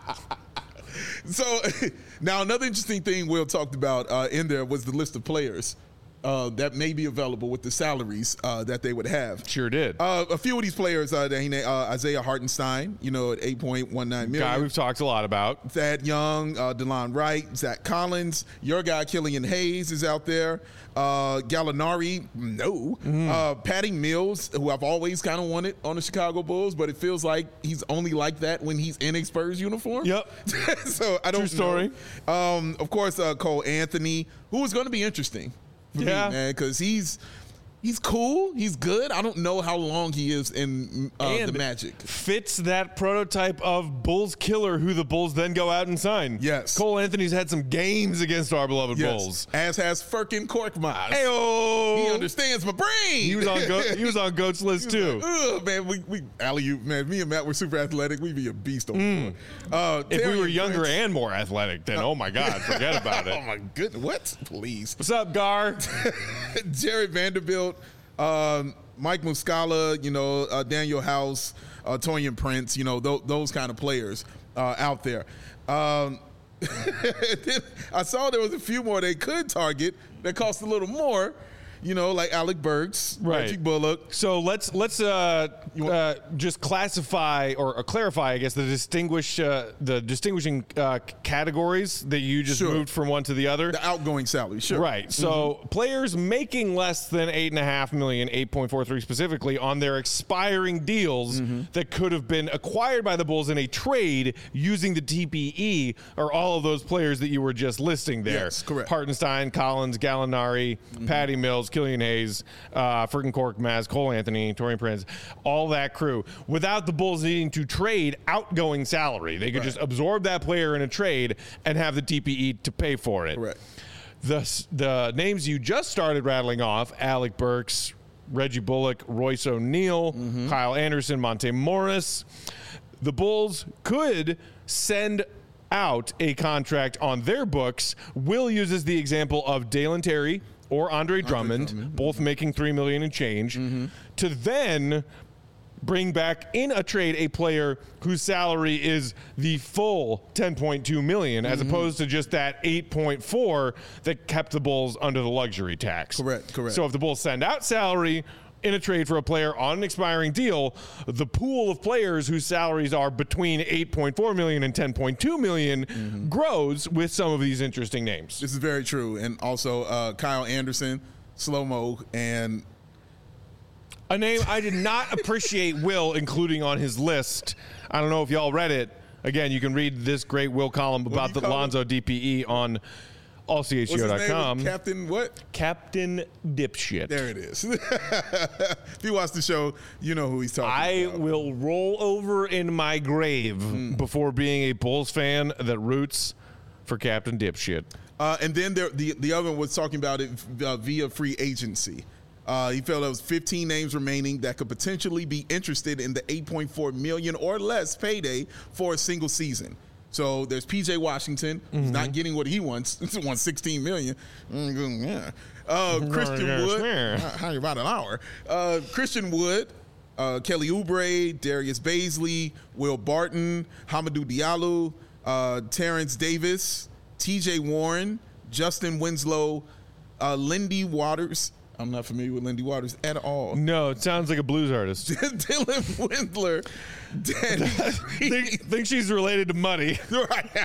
So now another interesting thing Will talked about in there was the list of players that may be available with the salaries that they would have. Sure did. A few of these players that he named, Isaiah Hartenstein, at $8.19 million. Guy we've talked a lot about. Thad Young, DeLon Wright, Zach Collins, your guy Killian Hayes is out there. Gallinari, no. Patty Mills, who I've always kind of wanted on the Chicago Bulls, but it feels like he's only like that when he's in a Spurs uniform. Yep. So I don't True story. know. Of course, Cole Anthony, who is going to be interesting. For me, man, because he's cool. He's good. I don't know how long he is in the Magic. Fits that prototype of Bulls killer who the Bulls then go out and sign. Yes. Cole Anthony's had some games against our beloved Bulls. As has Furkan Korkmaz. Hey-oh. He understands my brain. He was on Goat's list too. Like, man, we alley-oop, man. Me and Matt were super athletic. We'd be a beast on the floor. If we were younger and more athletic, then oh my God, forget about it. Oh my goodness. What? Please. What's up, Gar? Jared Vanderbilt. Mike Muscala, Daniel House, Taurean Prince, those kind of players out there. I saw there was a few more they could target that cost a little more. like Alec Burks, Right. Reggie Bullock. So let's just classify or clarify, I guess, the distinguishing categories that you just Sure. moved from one to the other. The outgoing salary, sure. Right. So players making less than $8.5 million, 8.43 specifically, on their expiring deals that could have been acquired by the Bulls in a trade using the TPE are all of those players that you were just listing there. Yes, correct. Hartenstein, Collins, Gallinari, Patty Mills, Killian Hayes, Furkan Maz, Cole Anthony, Taurean Prince, all that crew. Without the Bulls needing to trade outgoing salary, they could just absorb that player in a trade and have the TPE to pay for it. Correct. The names you just started rattling off, Alec Burks, Reggie Bullock, Royce O'Neal, Kyle Anderson, Monte Morris, the Bulls could send out a contract on their books. Will uses the example of Dalen Terry or Andre Drummond, both making $3 million and change, to then bring back in a trade a player whose salary is the full $10.2 million, as opposed to just that 8.4 that kept the Bulls under the luxury tax. Correct. So if the Bulls send out salary in a trade for a player on an expiring deal, the pool of players whose salaries are between $8.4 million and $10.2 million grows with some of these interesting names. This is very true. And also Kyle Anderson, Slow-Mo, and A name I did not appreciate Will including on his list. I don't know if y'all read it. Again, you can read this great Will column about the Lonzo DPE on allchgo.com. Captain what? Captain Dipshit. There it is. If you watch the show, you know who he's talking about. I will roll over in my grave before being a Bulls fan that roots for Captain Dipshit. And then the other one was talking about it via free agency. He felt there was 15 names remaining that could potentially be interested in the $8.4 million or less payday for a single season. So there's P.J. Washington, who's not getting what he wants. He wants $16 million. Christian Wood. How about an hour? Christian Wood, Kelly Oubre, Darius Baisley, Will Barton, Hamidou Diallo, Terrence Davis, T.J. Warren, Justin Winslow, Lindy Waters. I'm not familiar with Lindy Waters at all. No, it sounds like a blues artist. Dylan Windler, Danny think she's related to Muddy. Right.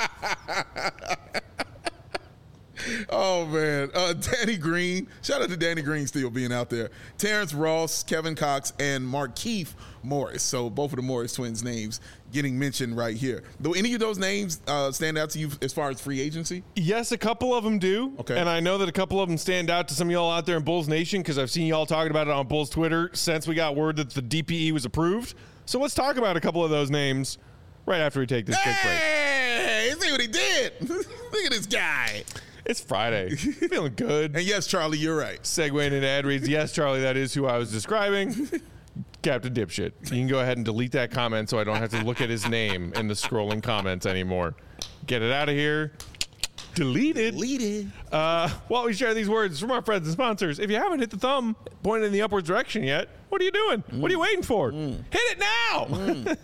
Oh, man. Danny Green. Shout out to Danny Green still being out there. Terrence Ross, Kevin Cox, and Markieff Morris. So both of the Morris twins' names getting mentioned right here. Do any of those names stand out to you as far as free agency? Yes, a couple of them do. Okay. And I know that a couple of them stand out to some of y'all out there in Bulls Nation because I've seen y'all talking about it on Bulls Twitter since we got word that the DPE was approved. So let's talk about a couple of those names right after we take this quick break. Hey, see what he did. Look at this guy. It's Friday. Feeling good. And yes, Charlie, you're right. Segueing into ad reads. Yes, Charlie, that is who I was describing. Captain Dipshit. You can go ahead and delete that comment so I don't have to look at his name in the scrolling comments anymore. Get it out of here. Delete it. While we share these words from our friends and sponsors, if you haven't hit the thumb pointed in the upwards direction yet, what are you doing? What are you waiting for? Hit it now.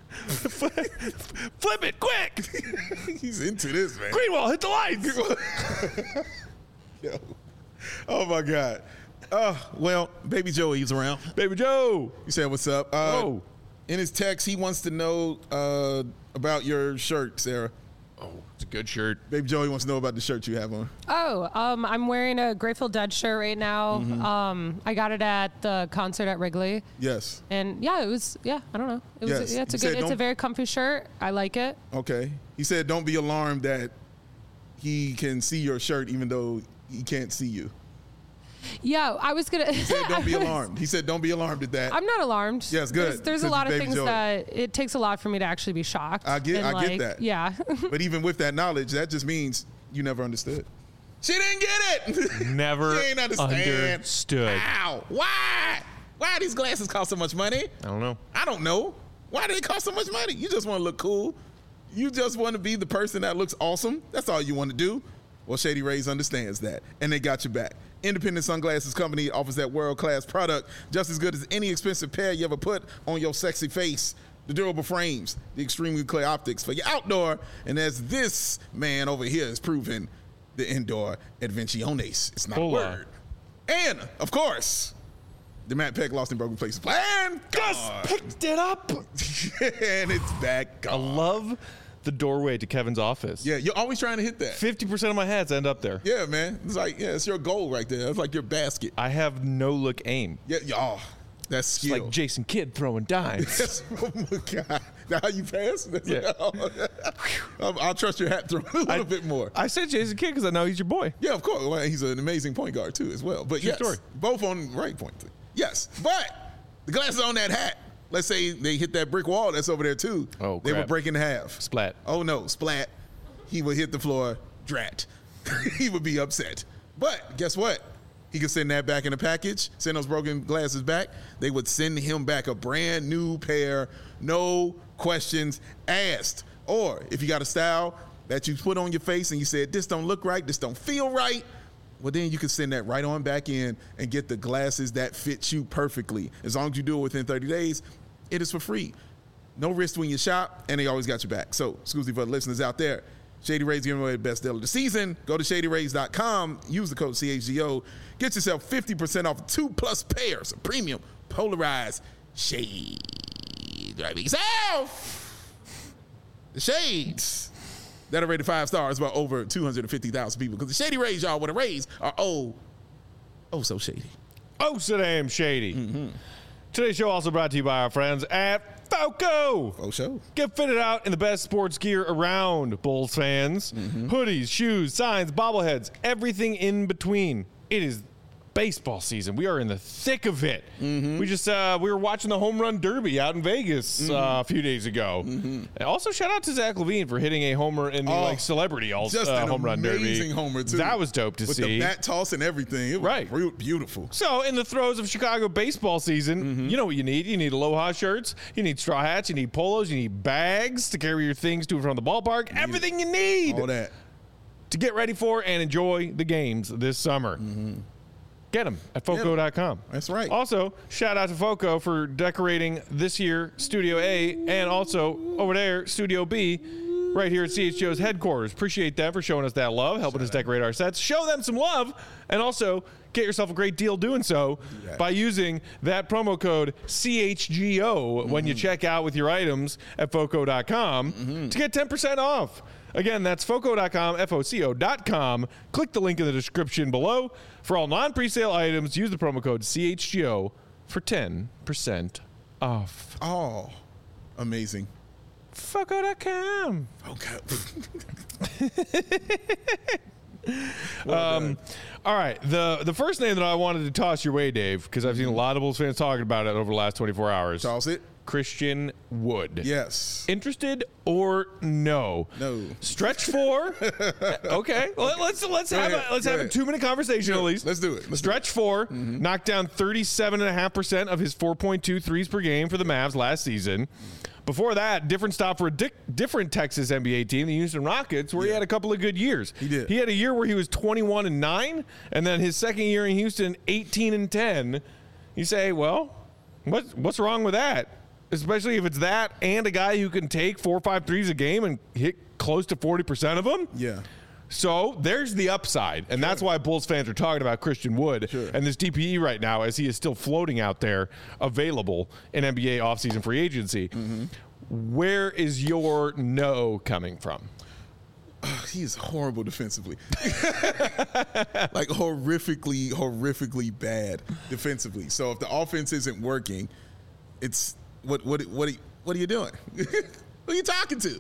Flip it quick. He's into this, man. Greenwald, hit the lights. Yo. Oh, my God. Well, Baby Joe, he's around. Baby Joe. You said, what's up? Oh. In his text, he wants to know about your shirt, Sarah. Oh, it's a good shirt. Baby Joe, he wants to know about the shirt you have on. Oh, I'm wearing a Grateful Dead shirt right now. I got it at the concert at Wrigley. Yes. And yeah, it was, I don't know. It was, Yes. yeah, it's You said it's a very comfy shirt. I like it. Okay. He said, don't be alarmed that he can see your shirt even though he can't see you. Yeah, I was going to. He said, don't be alarmed. He said, don't be alarmed at that. I'm not alarmed. Yes, good. There's a Because lot of Baby things Joe. that it takes a lot for me to actually be shocked. I get that. Yeah. But even with that knowledge, that just means you never understood. She didn't get it. Never She ain't understand. understood. Ow. Why? Why these glasses cost so much money? I don't know. I don't know. Why do they cost so much money? You just want to look cool. You just want to be the person that looks awesome. That's all you want to do. Well, Shady Rays understands that, and they got your back. Independent Sunglasses Company offers that world-class product just as good as any expensive pair you ever put on your sexy face. The durable frames, the extremely clear optics for your outdoor, and as this man over here has proven, the indoor adventiones. It's not a Hola. word. And, of course, the Matt Peck Lost and Broken Places plan. Just picked it up. And it's back. I love the doorway to Kevin's office. Yeah, you're always trying to hit that. 50% of my hats end up there. Yeah, man. It's like, it's your goal right there. It's like your basket. I have no look aim. Yeah, oh, that's skill. It's like Jason Kidd throwing dimes. Oh my God. Now how you pass? Yeah. I'll trust your hat throw a little bit more. I said Jason Kidd because I know he's your boy. Yeah, of course. Well, he's an amazing point guard too, as well. But True yes, story. both on right point. Yes, but the glasses on that hat. Let's say they hit that brick wall that's over there too. Oh, they crap. would break in half. Splat. Oh no, splat. He would hit the floor. Drat. He would be upset. But guess what? He could send that back in a package, send those broken glasses back. They would send him back a brand new pair, no questions asked. Or if you got a style that you put on your face and you said, this don't look right, this don't feel right, well, then you can send that right on back in and get the glasses that fit you perfectly. As long as you do it within 30 days, it is for free. No risk when you shop, and they always got your back. So, excuse me for the listeners out there. Shady Rays giving away the best deal of the season. Go to ShadyRays.com. Use the code CHGO. Get yourself 50% off 2+ pairs of premium polarized shades. Right yourself. The shades that are rated 5 stars by over 250,000 people. Because the Shady Rays, y'all, with the Rays are oh so shady. Oh, so damn shady. Today's show also brought to you by our friends at FOCO. Oh, show. Get fitted out in the best sports gear around, Bulls fans. Hoodies, shoes, signs, bobbleheads, everything in between. It is baseball season. We are in the thick of it. We just we were watching the home run derby out in Vegas a few days ago. And also, shout out to Zach LaVine for hitting a homer in the celebrity Just an home run derby. amazing homer too. That was dope to with see. the bat toss and everything. It was Right. beautiful. So, in the throes of Chicago baseball season, you know what you need. You need Aloha shirts, you need straw hats, you need polos, you need bags to carry your things to and from the ballpark. Everything you need All that. to get ready for and enjoy the games this summer. Get them at FOCO.com. That's right. Also, shout out to FOCO for decorating this year Studio A and also over there Studio B right here at CHGO's headquarters. Appreciate them for showing us that love, helping us decorate our sets. Show them some love, and also get yourself a great deal doing so by using that promo code CHGO when you check out with your items at FOCO.com to get 10% off. Again, that's FOCO.com, FOCO.com. Click the link in the description below. For all non-presale items, use the promo code CHGO for 10% off. Oh, amazing. FOCO.com. Okay. All right, the first name that I wanted to toss your way, Dave, because I've seen a lot of Bulls fans talking about it over the last 24 hours. Toss it. Christian Wood. Yes. Interested or no? No. Stretch 4. Okay. Well, let's have a 2-minute conversation at least. Let's do it. Stretch 4 knocked down 37.5% of his 4.2 threes per game for the Mavs last season. Before that, different stop for a different Texas NBA team, the Houston Rockets, where he had a couple of good years. He did. He had a year where he was 21-9, and then his second year in Houston, 18-10. You say, well, what's wrong with that? Especially if it's that and a guy who can take 4 or 5 threes a game and hit close to 40% of them. Yeah. So there's the upside, and that's why Bulls fans are talking about Christian Wood and this DPE right now, as he is still floating out there, available in NBA offseason free agency. Where is your no coming from? He is horrible defensively. Like horrifically bad defensively. So if the offense isn't working, it's what are you doing? Who are you talking to?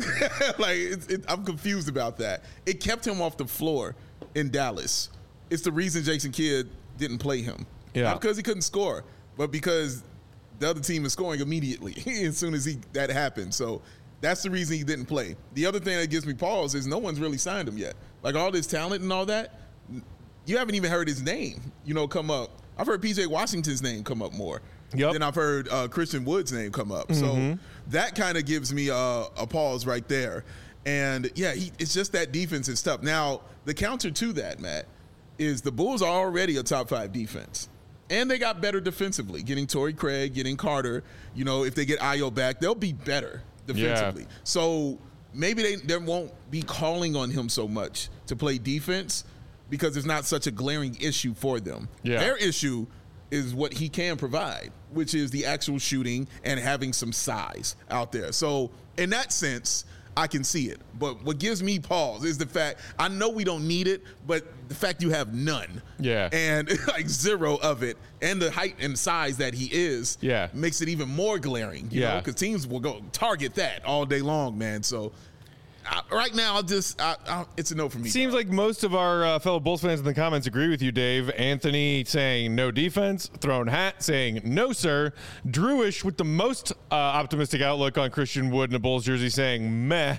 I'm confused about that. It kept him off the floor in Dallas. It's the reason Jason Kidd didn't play him. Yeah. Not because he couldn't score, but because the other team is scoring immediately as soon as that happened. So that's the reason he didn't play. The other thing that gives me pause is no one's really signed him yet. Like all this talent and all that, you haven't even heard his name, come up. I've heard PJ Washington's name come up more. Yep. Then I've heard Christian Wood's name come up. So that kind of gives me a pause right there. And, yeah, it's just that defensive stuff. Now, the counter to that, Matt, is the Bulls are already a top 5 defense. And they got better defensively, getting Torrey Craig, getting Carter. If they get Ayo back, they'll be better defensively. Yeah. So maybe they won't be calling on him so much to play defense. because it's not such a glaring issue for them. Yeah. Their issue is what he can provide, which is the actual shooting and having some size out there. So in that sense, I can see it. But what gives me pause is the fact, I know we don't need it, but the fact you have none. Yeah. And like zero of it, and the height and size that he is, makes it even more glaring. You know, because teams will go target that all day long, man. So right now, it's a no for me. Seems like most of our fellow Bulls fans in the comments agree with you, Dave. Anthony saying no defense. Throne Hat saying no, sir. Drewish with the most optimistic outlook on Christian Wood in a Bulls jersey saying meh.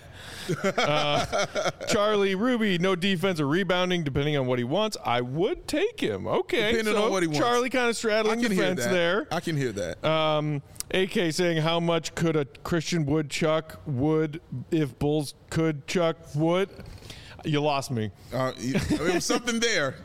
Charlie Ruby, no defense or rebounding, depending on what he wants. I would take him. Okay. Depending on what he wants. Charlie kind of straddling the fence there. I can hear that. AK saying, how much could a Christian Wood chuck Wood if Bulls could chuck Wood? You lost me. It was something there.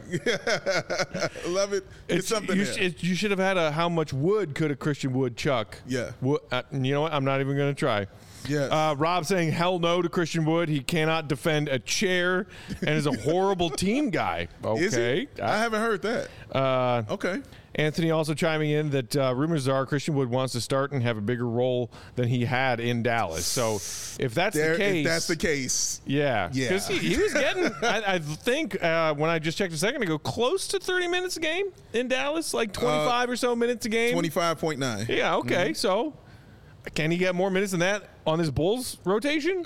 Love it. It's something there. You should have had a how much wood could a Christian Wood chuck? Yeah. You know what? I'm not even going to try. Yes. Rob saying hell no to Christian Wood. He cannot defend a chair and is a horrible team guy. Okay. Is he? I haven't heard that. Okay. Anthony also chiming in that rumors are Christian Wood wants to start and have a bigger role than he had in Dallas. So if that's the case, yeah. Because he was getting, I think when I just checked a second ago, close to 30 minutes a game in Dallas, like 25 or so minutes a game. 25.9. Yeah. Okay. Mm-hmm. So can he get more minutes than that on his Bulls rotation?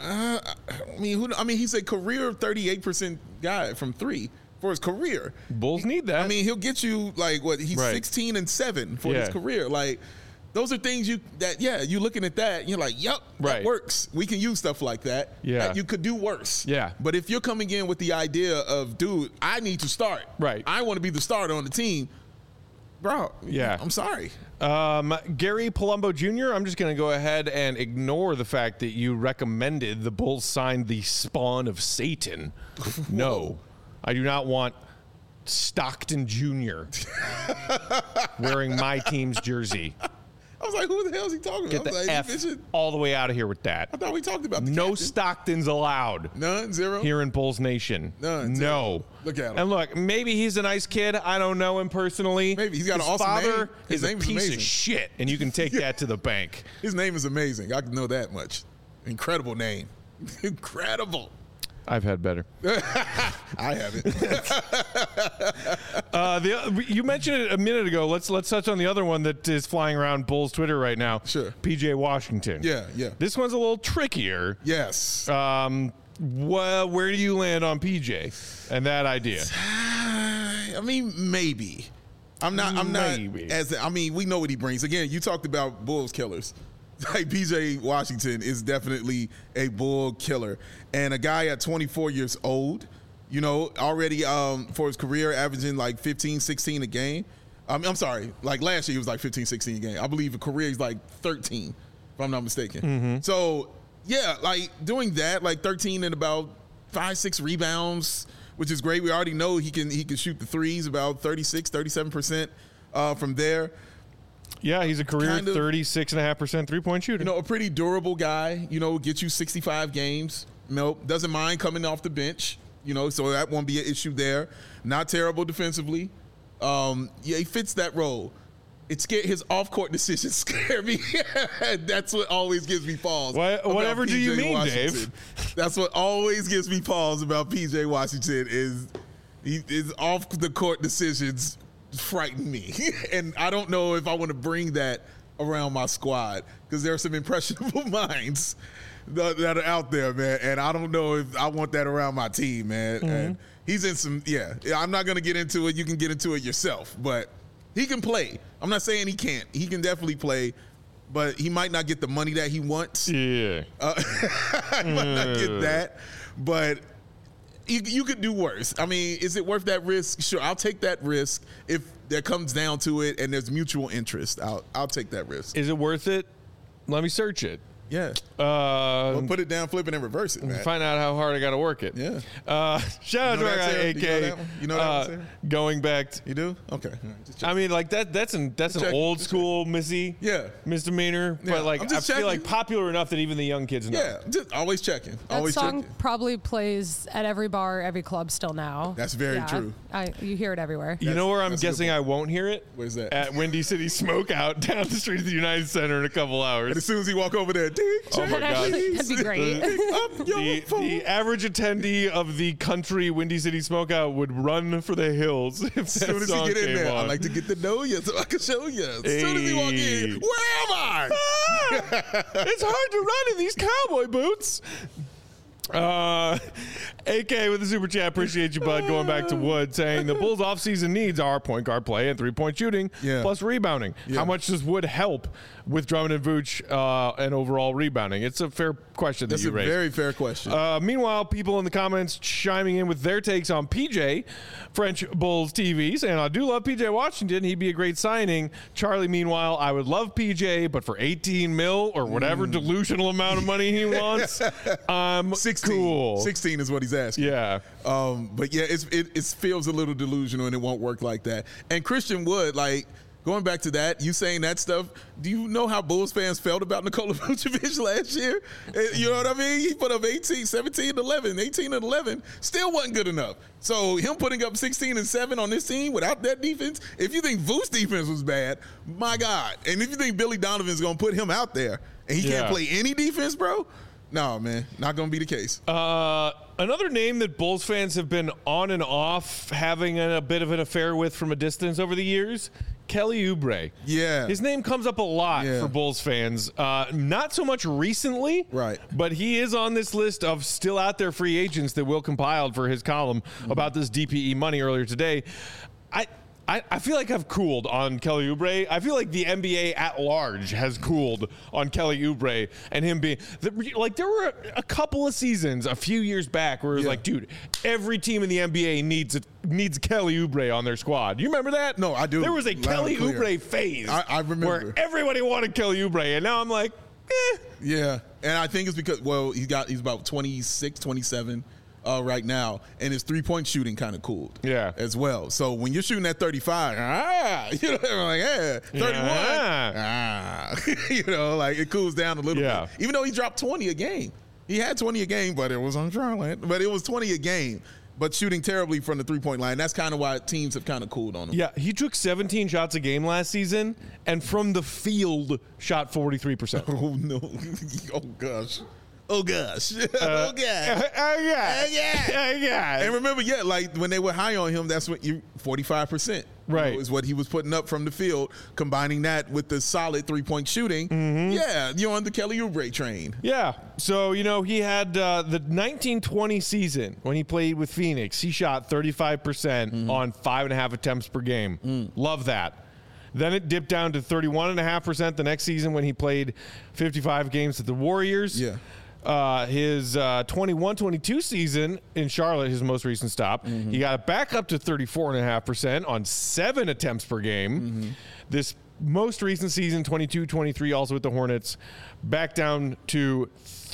He's a career 38% guy from three. For his career. Bulls need that. I mean, he'll get you like what he's 16-7 for his career. Like those are things you looking at that and you're like, yep, that works. We can use stuff like that. Yeah. You could do worse. Yeah. But if you're coming in with the idea of, dude, I need to start. Right. I want to be the starter on the team. Bro, I'm sorry. Gary Palumbo Jr., I'm just going to go ahead and ignore the fact that you recommended the Bulls sign the spawn of Satan. No. I do not want Stockton Jr. wearing my team's jersey. I was like, who the hell is he talking about? Get the F all the way out of here with that. I thought we talked about the no captain. Stockton's allowed. None, zero? Here in Bulls Nation. None, zero. No. Look at him. And look, maybe he's a nice kid. I don't know him personally. Maybe he's got His an awesome father name. His is name a is piece amazing. of shit, and you can take that to the bank. His name is amazing. I can know that much. Incredible name. Incredible. I've had better. I haven't. You mentioned it a minute ago. Let's touch on the other one that is flying around Bulls Twitter right now. Sure. PJ Washington. Yeah. This one's a little trickier. Yes. Well, where do you land on PJ and that idea? I mean, maybe. I'm not. We know what he brings. Again, you talked about Bulls killers. Like PJ Washington is definitely a Bull killer, and a guy at 24 years old, you know, already for his career averaging like 15, 16 a game. I'm sorry, like last year he was like 15, 16 a game. I believe a career he's like 13, if I'm not mistaken. Mm-hmm. So yeah, like doing that, like 13 and about 5-6 rebounds, which is great. We already know he can shoot the threes about 37% from there. Yeah, he's a career 36.5% three-point shooter. You know, a pretty durable guy, you know, gets you 65 games. Nope, doesn't mind coming off the bench, you know, so that won't be an issue there. Not terrible defensively. He fits that role. His off-court decisions scare me. That's what always gives me pause. Whatever do you mean, Washington. Dave? That's what always gives me pause about PJ Washington is his off-the-court decisions frighten me. And I don't know if I want to bring that around my squad because there are some impressionable minds that are out there, man. And I don't know if I want that around my team, man. Mm-hmm. And he's in some, I'm not going to get into it. You can get into it yourself, but he can play. I'm not saying he can't. He can definitely play, but he might not get the money that he wants. Yeah. He might not get that, but you could do worse. I mean, is it worth that risk? Sure, I'll take that risk if that comes down to it and there's mutual interest. I'll take that risk. Is it worth it? Let me search it. Yeah. Well, put it down, flip it, and reverse it, man. Find out how hard I got to work it. Yeah. Shout out to our guy, AK. You know that one? Going back. You do? Okay. I mean, like that's an old school misdemeanor, Yeah, but like I'm I just feel like checking. popular enough that even the young kids know. Yeah, just always checking. That Always song checking. probably plays at every bar, every club still now. That's very true. You hear it everywhere. You know where I'm that's a good guessing point. I won't hear it? Where's that? At Windy City Smokeout down the street of the United Center in a couple hours. And as soon as he walk over there, Oh my God. That'd be great. up your The phone. average attendee of the country Windy City Smokeout would run for the hills if As soon as he get in there, I like to get to know you so I can show you. As soon as he walk Hey. in, where am I? It's hard to run in these cowboy boots. AK with the super chat. Appreciate you, bud. Going back to Wood saying the Bulls offseason needs are point guard play and 3-point shooting plus rebounding. Yeah. How much does Wood help with Drummond and Vooch and overall rebounding? It's a fair question That's that you a raised. very fair question. Meanwhile, people in the comments chiming in with their takes on PJ, French Bulls TV, saying, I do love PJ Washington. He'd be a great signing. Charlie, meanwhile, I would love PJ, but for 18 mil or whatever delusional amount of money he wants, I'm 16. cool. 16 is what he's asking. Yeah. But yeah, it feels a little delusional and it won't work like that. And Christian Wood, like, going back to that, you saying that stuff, do you know how Bulls fans felt about Nikola Vucevic last year? You know what I mean? He put up 17 and 11, 18 and 11, still wasn't good enough. So him putting up 16 and 7 on this team without that defense, if you think Vuce's defense was bad, my God. And if you think Billy Donovan's going to put him out there and he can't play any defense, bro, no, man, not going to be the case. Another name that Bulls fans have been on and off having a bit of an affair with from a distance over the years, Kelly Oubre. Yeah. His name comes up a lot Yeah. for Bulls fans. Not so much recently, Right. but he is on this list of still out there free agents that Will compiled for his column about this DPE money earlier today. I feel like I've cooled on Kelly Oubre. I feel like the NBA at large has cooled on Kelly Oubre and him being like, there were a couple of seasons a few years back where it was like, dude, every team in the NBA needs Kelly Oubre on their squad. You remember that? No, I do. There was a Loud Kelly and clear. Oubre phase. I remember. Where everybody wanted Kelly Oubre, and now I'm like, Yeah, and I think it's because, well, he's about 26, 27 right now, and his three-point shooting kind of cooled. Yeah. as well. So when you're shooting at 35, you know, I'm like, yeah, 31, you know, like it cools down a little bit. Even though he dropped 20 a game, he had 20 a game, but it was on Charlotte. But it was 20 a game. But shooting terribly from the three-point line. That's kind of why teams have kind of cooled on him. yeah, he took 17 shots a game last season, and from the field shot 43%. Oh, no. Oh, gosh. Oh, gosh. Oh, gosh. Yeah. And remember, like when they were high on him, that's what 45%. Right. Is what he was putting up from the field, combining that with the solid three-point shooting. Yeah, you're on the Kelly Oubre train. Yeah. So, you know, he had the 1920 season when he played with Phoenix. He shot 35% on 5.5 attempts per game. Love that. Then it dipped down to 31.5% the next season when he played 55 games with the Warriors. Yeah. His 21-22 season in Charlotte, his most recent stop, he got it back up to 34.5% on 7 attempts per game. This most recent season, 22-23, also with the Hornets, back down to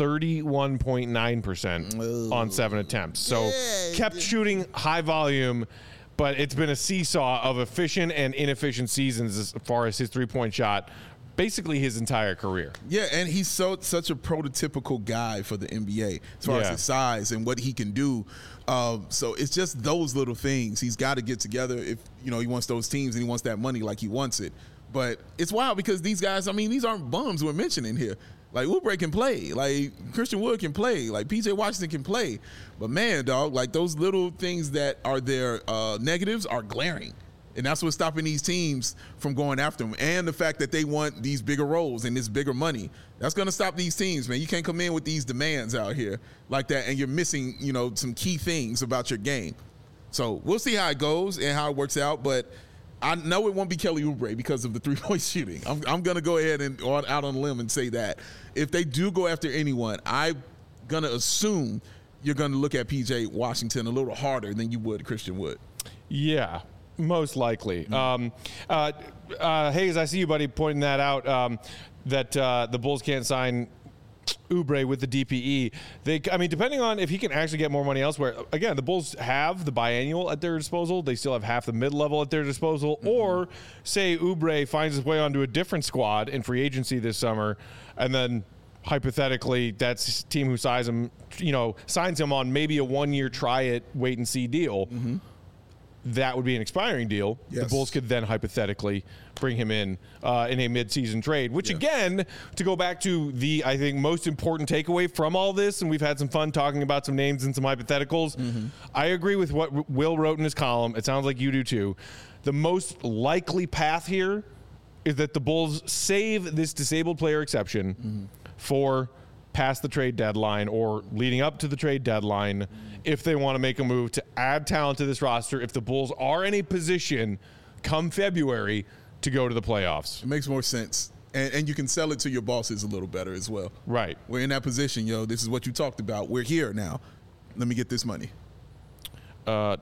31.9% on 7 attempts. So kept shooting high volume, but it's been a seesaw of efficient and inefficient seasons as far as his three-point shot basically his entire career. Yeah, and he's such a prototypical guy for the NBA as far as his size and what he can do. So it's just those little things. He's got to get together if, you know, he wants those teams and he wants that money like he wants it. But it's wild because these guys, I mean, these aren't bums we're mentioning here. Like, Oubre can play. Like, Christian Wood can play. Like, PJ Washington can play. But, man, dog, like, those little things that are their negatives are glaring. And that's what's stopping these teams from going after them. And the fact that they want these bigger roles and this bigger money. That's going to stop these teams, man. You can't come in with these demands out here like that, and you're missing, you know, some key things about your game. So we'll see how it goes and how it works out. But I know it won't be Kelly Oubre because of the three-point shooting. I'm going to go ahead and out on a limb and say that. If they do go after anyone, I'm going to assume you're going to look at PJ Washington a little harder than you would Christian Wood. Yeah. Most likely. Hayes, I see you, buddy, pointing that out, that the Bulls can't sign Oubre with the DPE. Depending on if he can actually get more money elsewhere. Again, the Bulls have the biannual at their disposal. They still have half the mid-level at their disposal. Or say Oubre finds his way onto a different squad in free agency this summer, and then hypothetically that's a team who signs him on maybe a 1-year try-it, wait-and-see deal. That would be an expiring deal. Yes. The Bulls could then hypothetically bring him in a mid-season trade, which again, to go back to the, I think, most important takeaway from all this, and we've had some fun talking about some names and some hypotheticals. I agree with what Will wrote in his column. It sounds like you do too. The most likely path here is that the Bulls save this disabled player exception for past the trade deadline or leading up to the trade deadline if they want to make a move to add talent to this roster, if the Bulls are in a position come February to go to the playoffs. It makes more sense. And you can sell it to your bosses a little better as well. Right. We're in that position, this is what you talked about. We're here now. Let me get this money. Get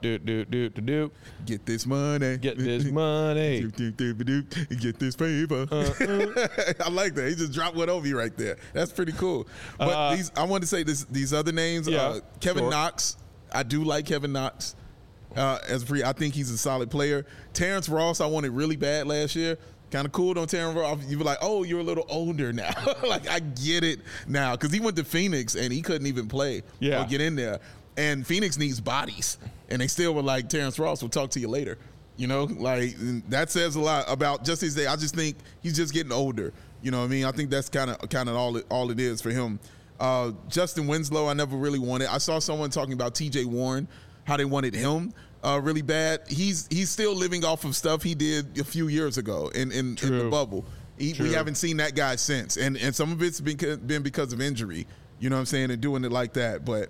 this money. Get this money. Get this paper. I like that. He just dropped one over you right there. That's pretty cool. But I want to say these other names. Kevin Knox. I do like Kevin Knox. I think he's a solid player. Terrence Ross, I wanted really bad last year. Kind of cool on Terrence Ross. You were like, oh, you're a little older now. Like, I get it now. Because he went to Phoenix and he couldn't even play or get in there. And Phoenix needs bodies. And they still were like, Terrence Ross, we'll talk to you later. That says a lot about just his day. I just think he's just getting older. You know what I mean? I think that's kind of all it is for him. Justin Winslow, I never really wanted. I saw someone talking about TJ Warren, how they wanted him really bad. He's still living off of stuff he did a few years ago in the bubble. We haven't seen that guy since. And some of it's been because of injury, you know what I'm saying, and doing it like that. But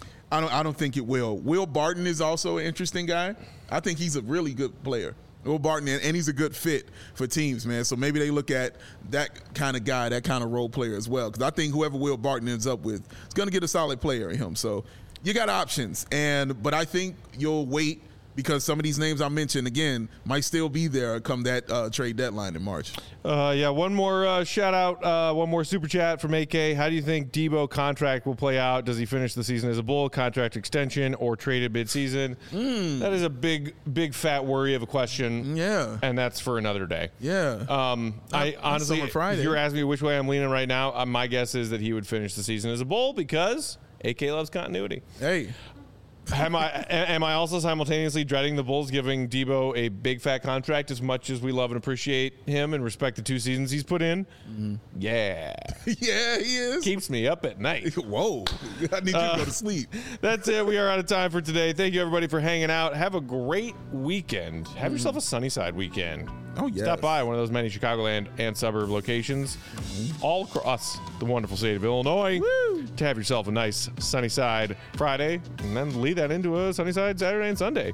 I don't think it will. Will Barton is also an interesting guy. I think he's a really good player. Will Barton, and he's a good fit for teams, man. So maybe they look at that kind of guy, that kind of role player as well. Because I think whoever Will Barton ends up with is going to get a solid player in him. So you got options. But I think you'll wait because some of these names I mentioned, again, might still be there come that trade deadline in March. One more shout out, one more super chat from AK. How do you think Debo contract will play out? Does he finish the season as a Bull, contract extension, or traded mid-season? That is a big fat worry of a question. Yeah. And that's for another day. Yeah. I honestly, Friday. if you're asking me which way I'm leaning right now, my guess is that he would finish the season as a Bull because AK loves continuity. Hey. Am I also simultaneously dreading the Bulls giving Debo a big fat contract as much as we love and appreciate him and respect the 2 seasons he's put in? Yeah. Yeah, he is. Keeps me up at night. Whoa. I need you to go to sleep. That's it. We are out of time for today. Thank you, everybody, for hanging out. Have a great weekend. Have yourself a Sunnyside weekend. Oh, yes. Stop by one of those many Chicagoland and suburb locations all across the wonderful state of Illinois to have yourself a nice Sunnyside Friday and then lead that into a Sunnyside Saturday and Sunday.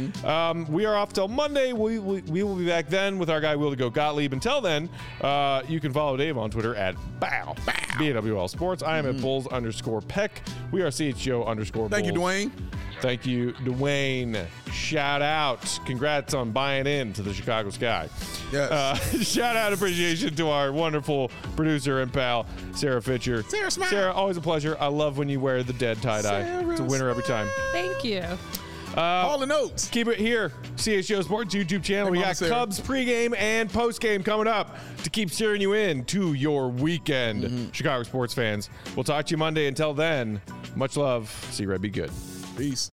We are off till Monday. We will be back then with our guy Will the Goat Gottlieb. Until then, you can follow Dave on Twitter at BAWL Sports. I am at Bulls_Peck. We are CHGO_Bulls. Thank you, Dwayne. Thank you, Dwayne. Shout out. Congrats on buying in to the Chicago Sky. Yes. Shout out appreciation to our wonderful producer and pal, Sarah Fitcher. Sarah, smile. Sarah, always a pleasure. I love when you wear the dead tie-dye. It's a winner every time. Thank you. All the notes. Keep it here. CHGO Sports YouTube channel. We got Cubs pregame and postgame coming up to keep steering you in to your weekend, Chicago sports fans. We'll talk to you Monday. Until then, much love. See Red be good. Peace.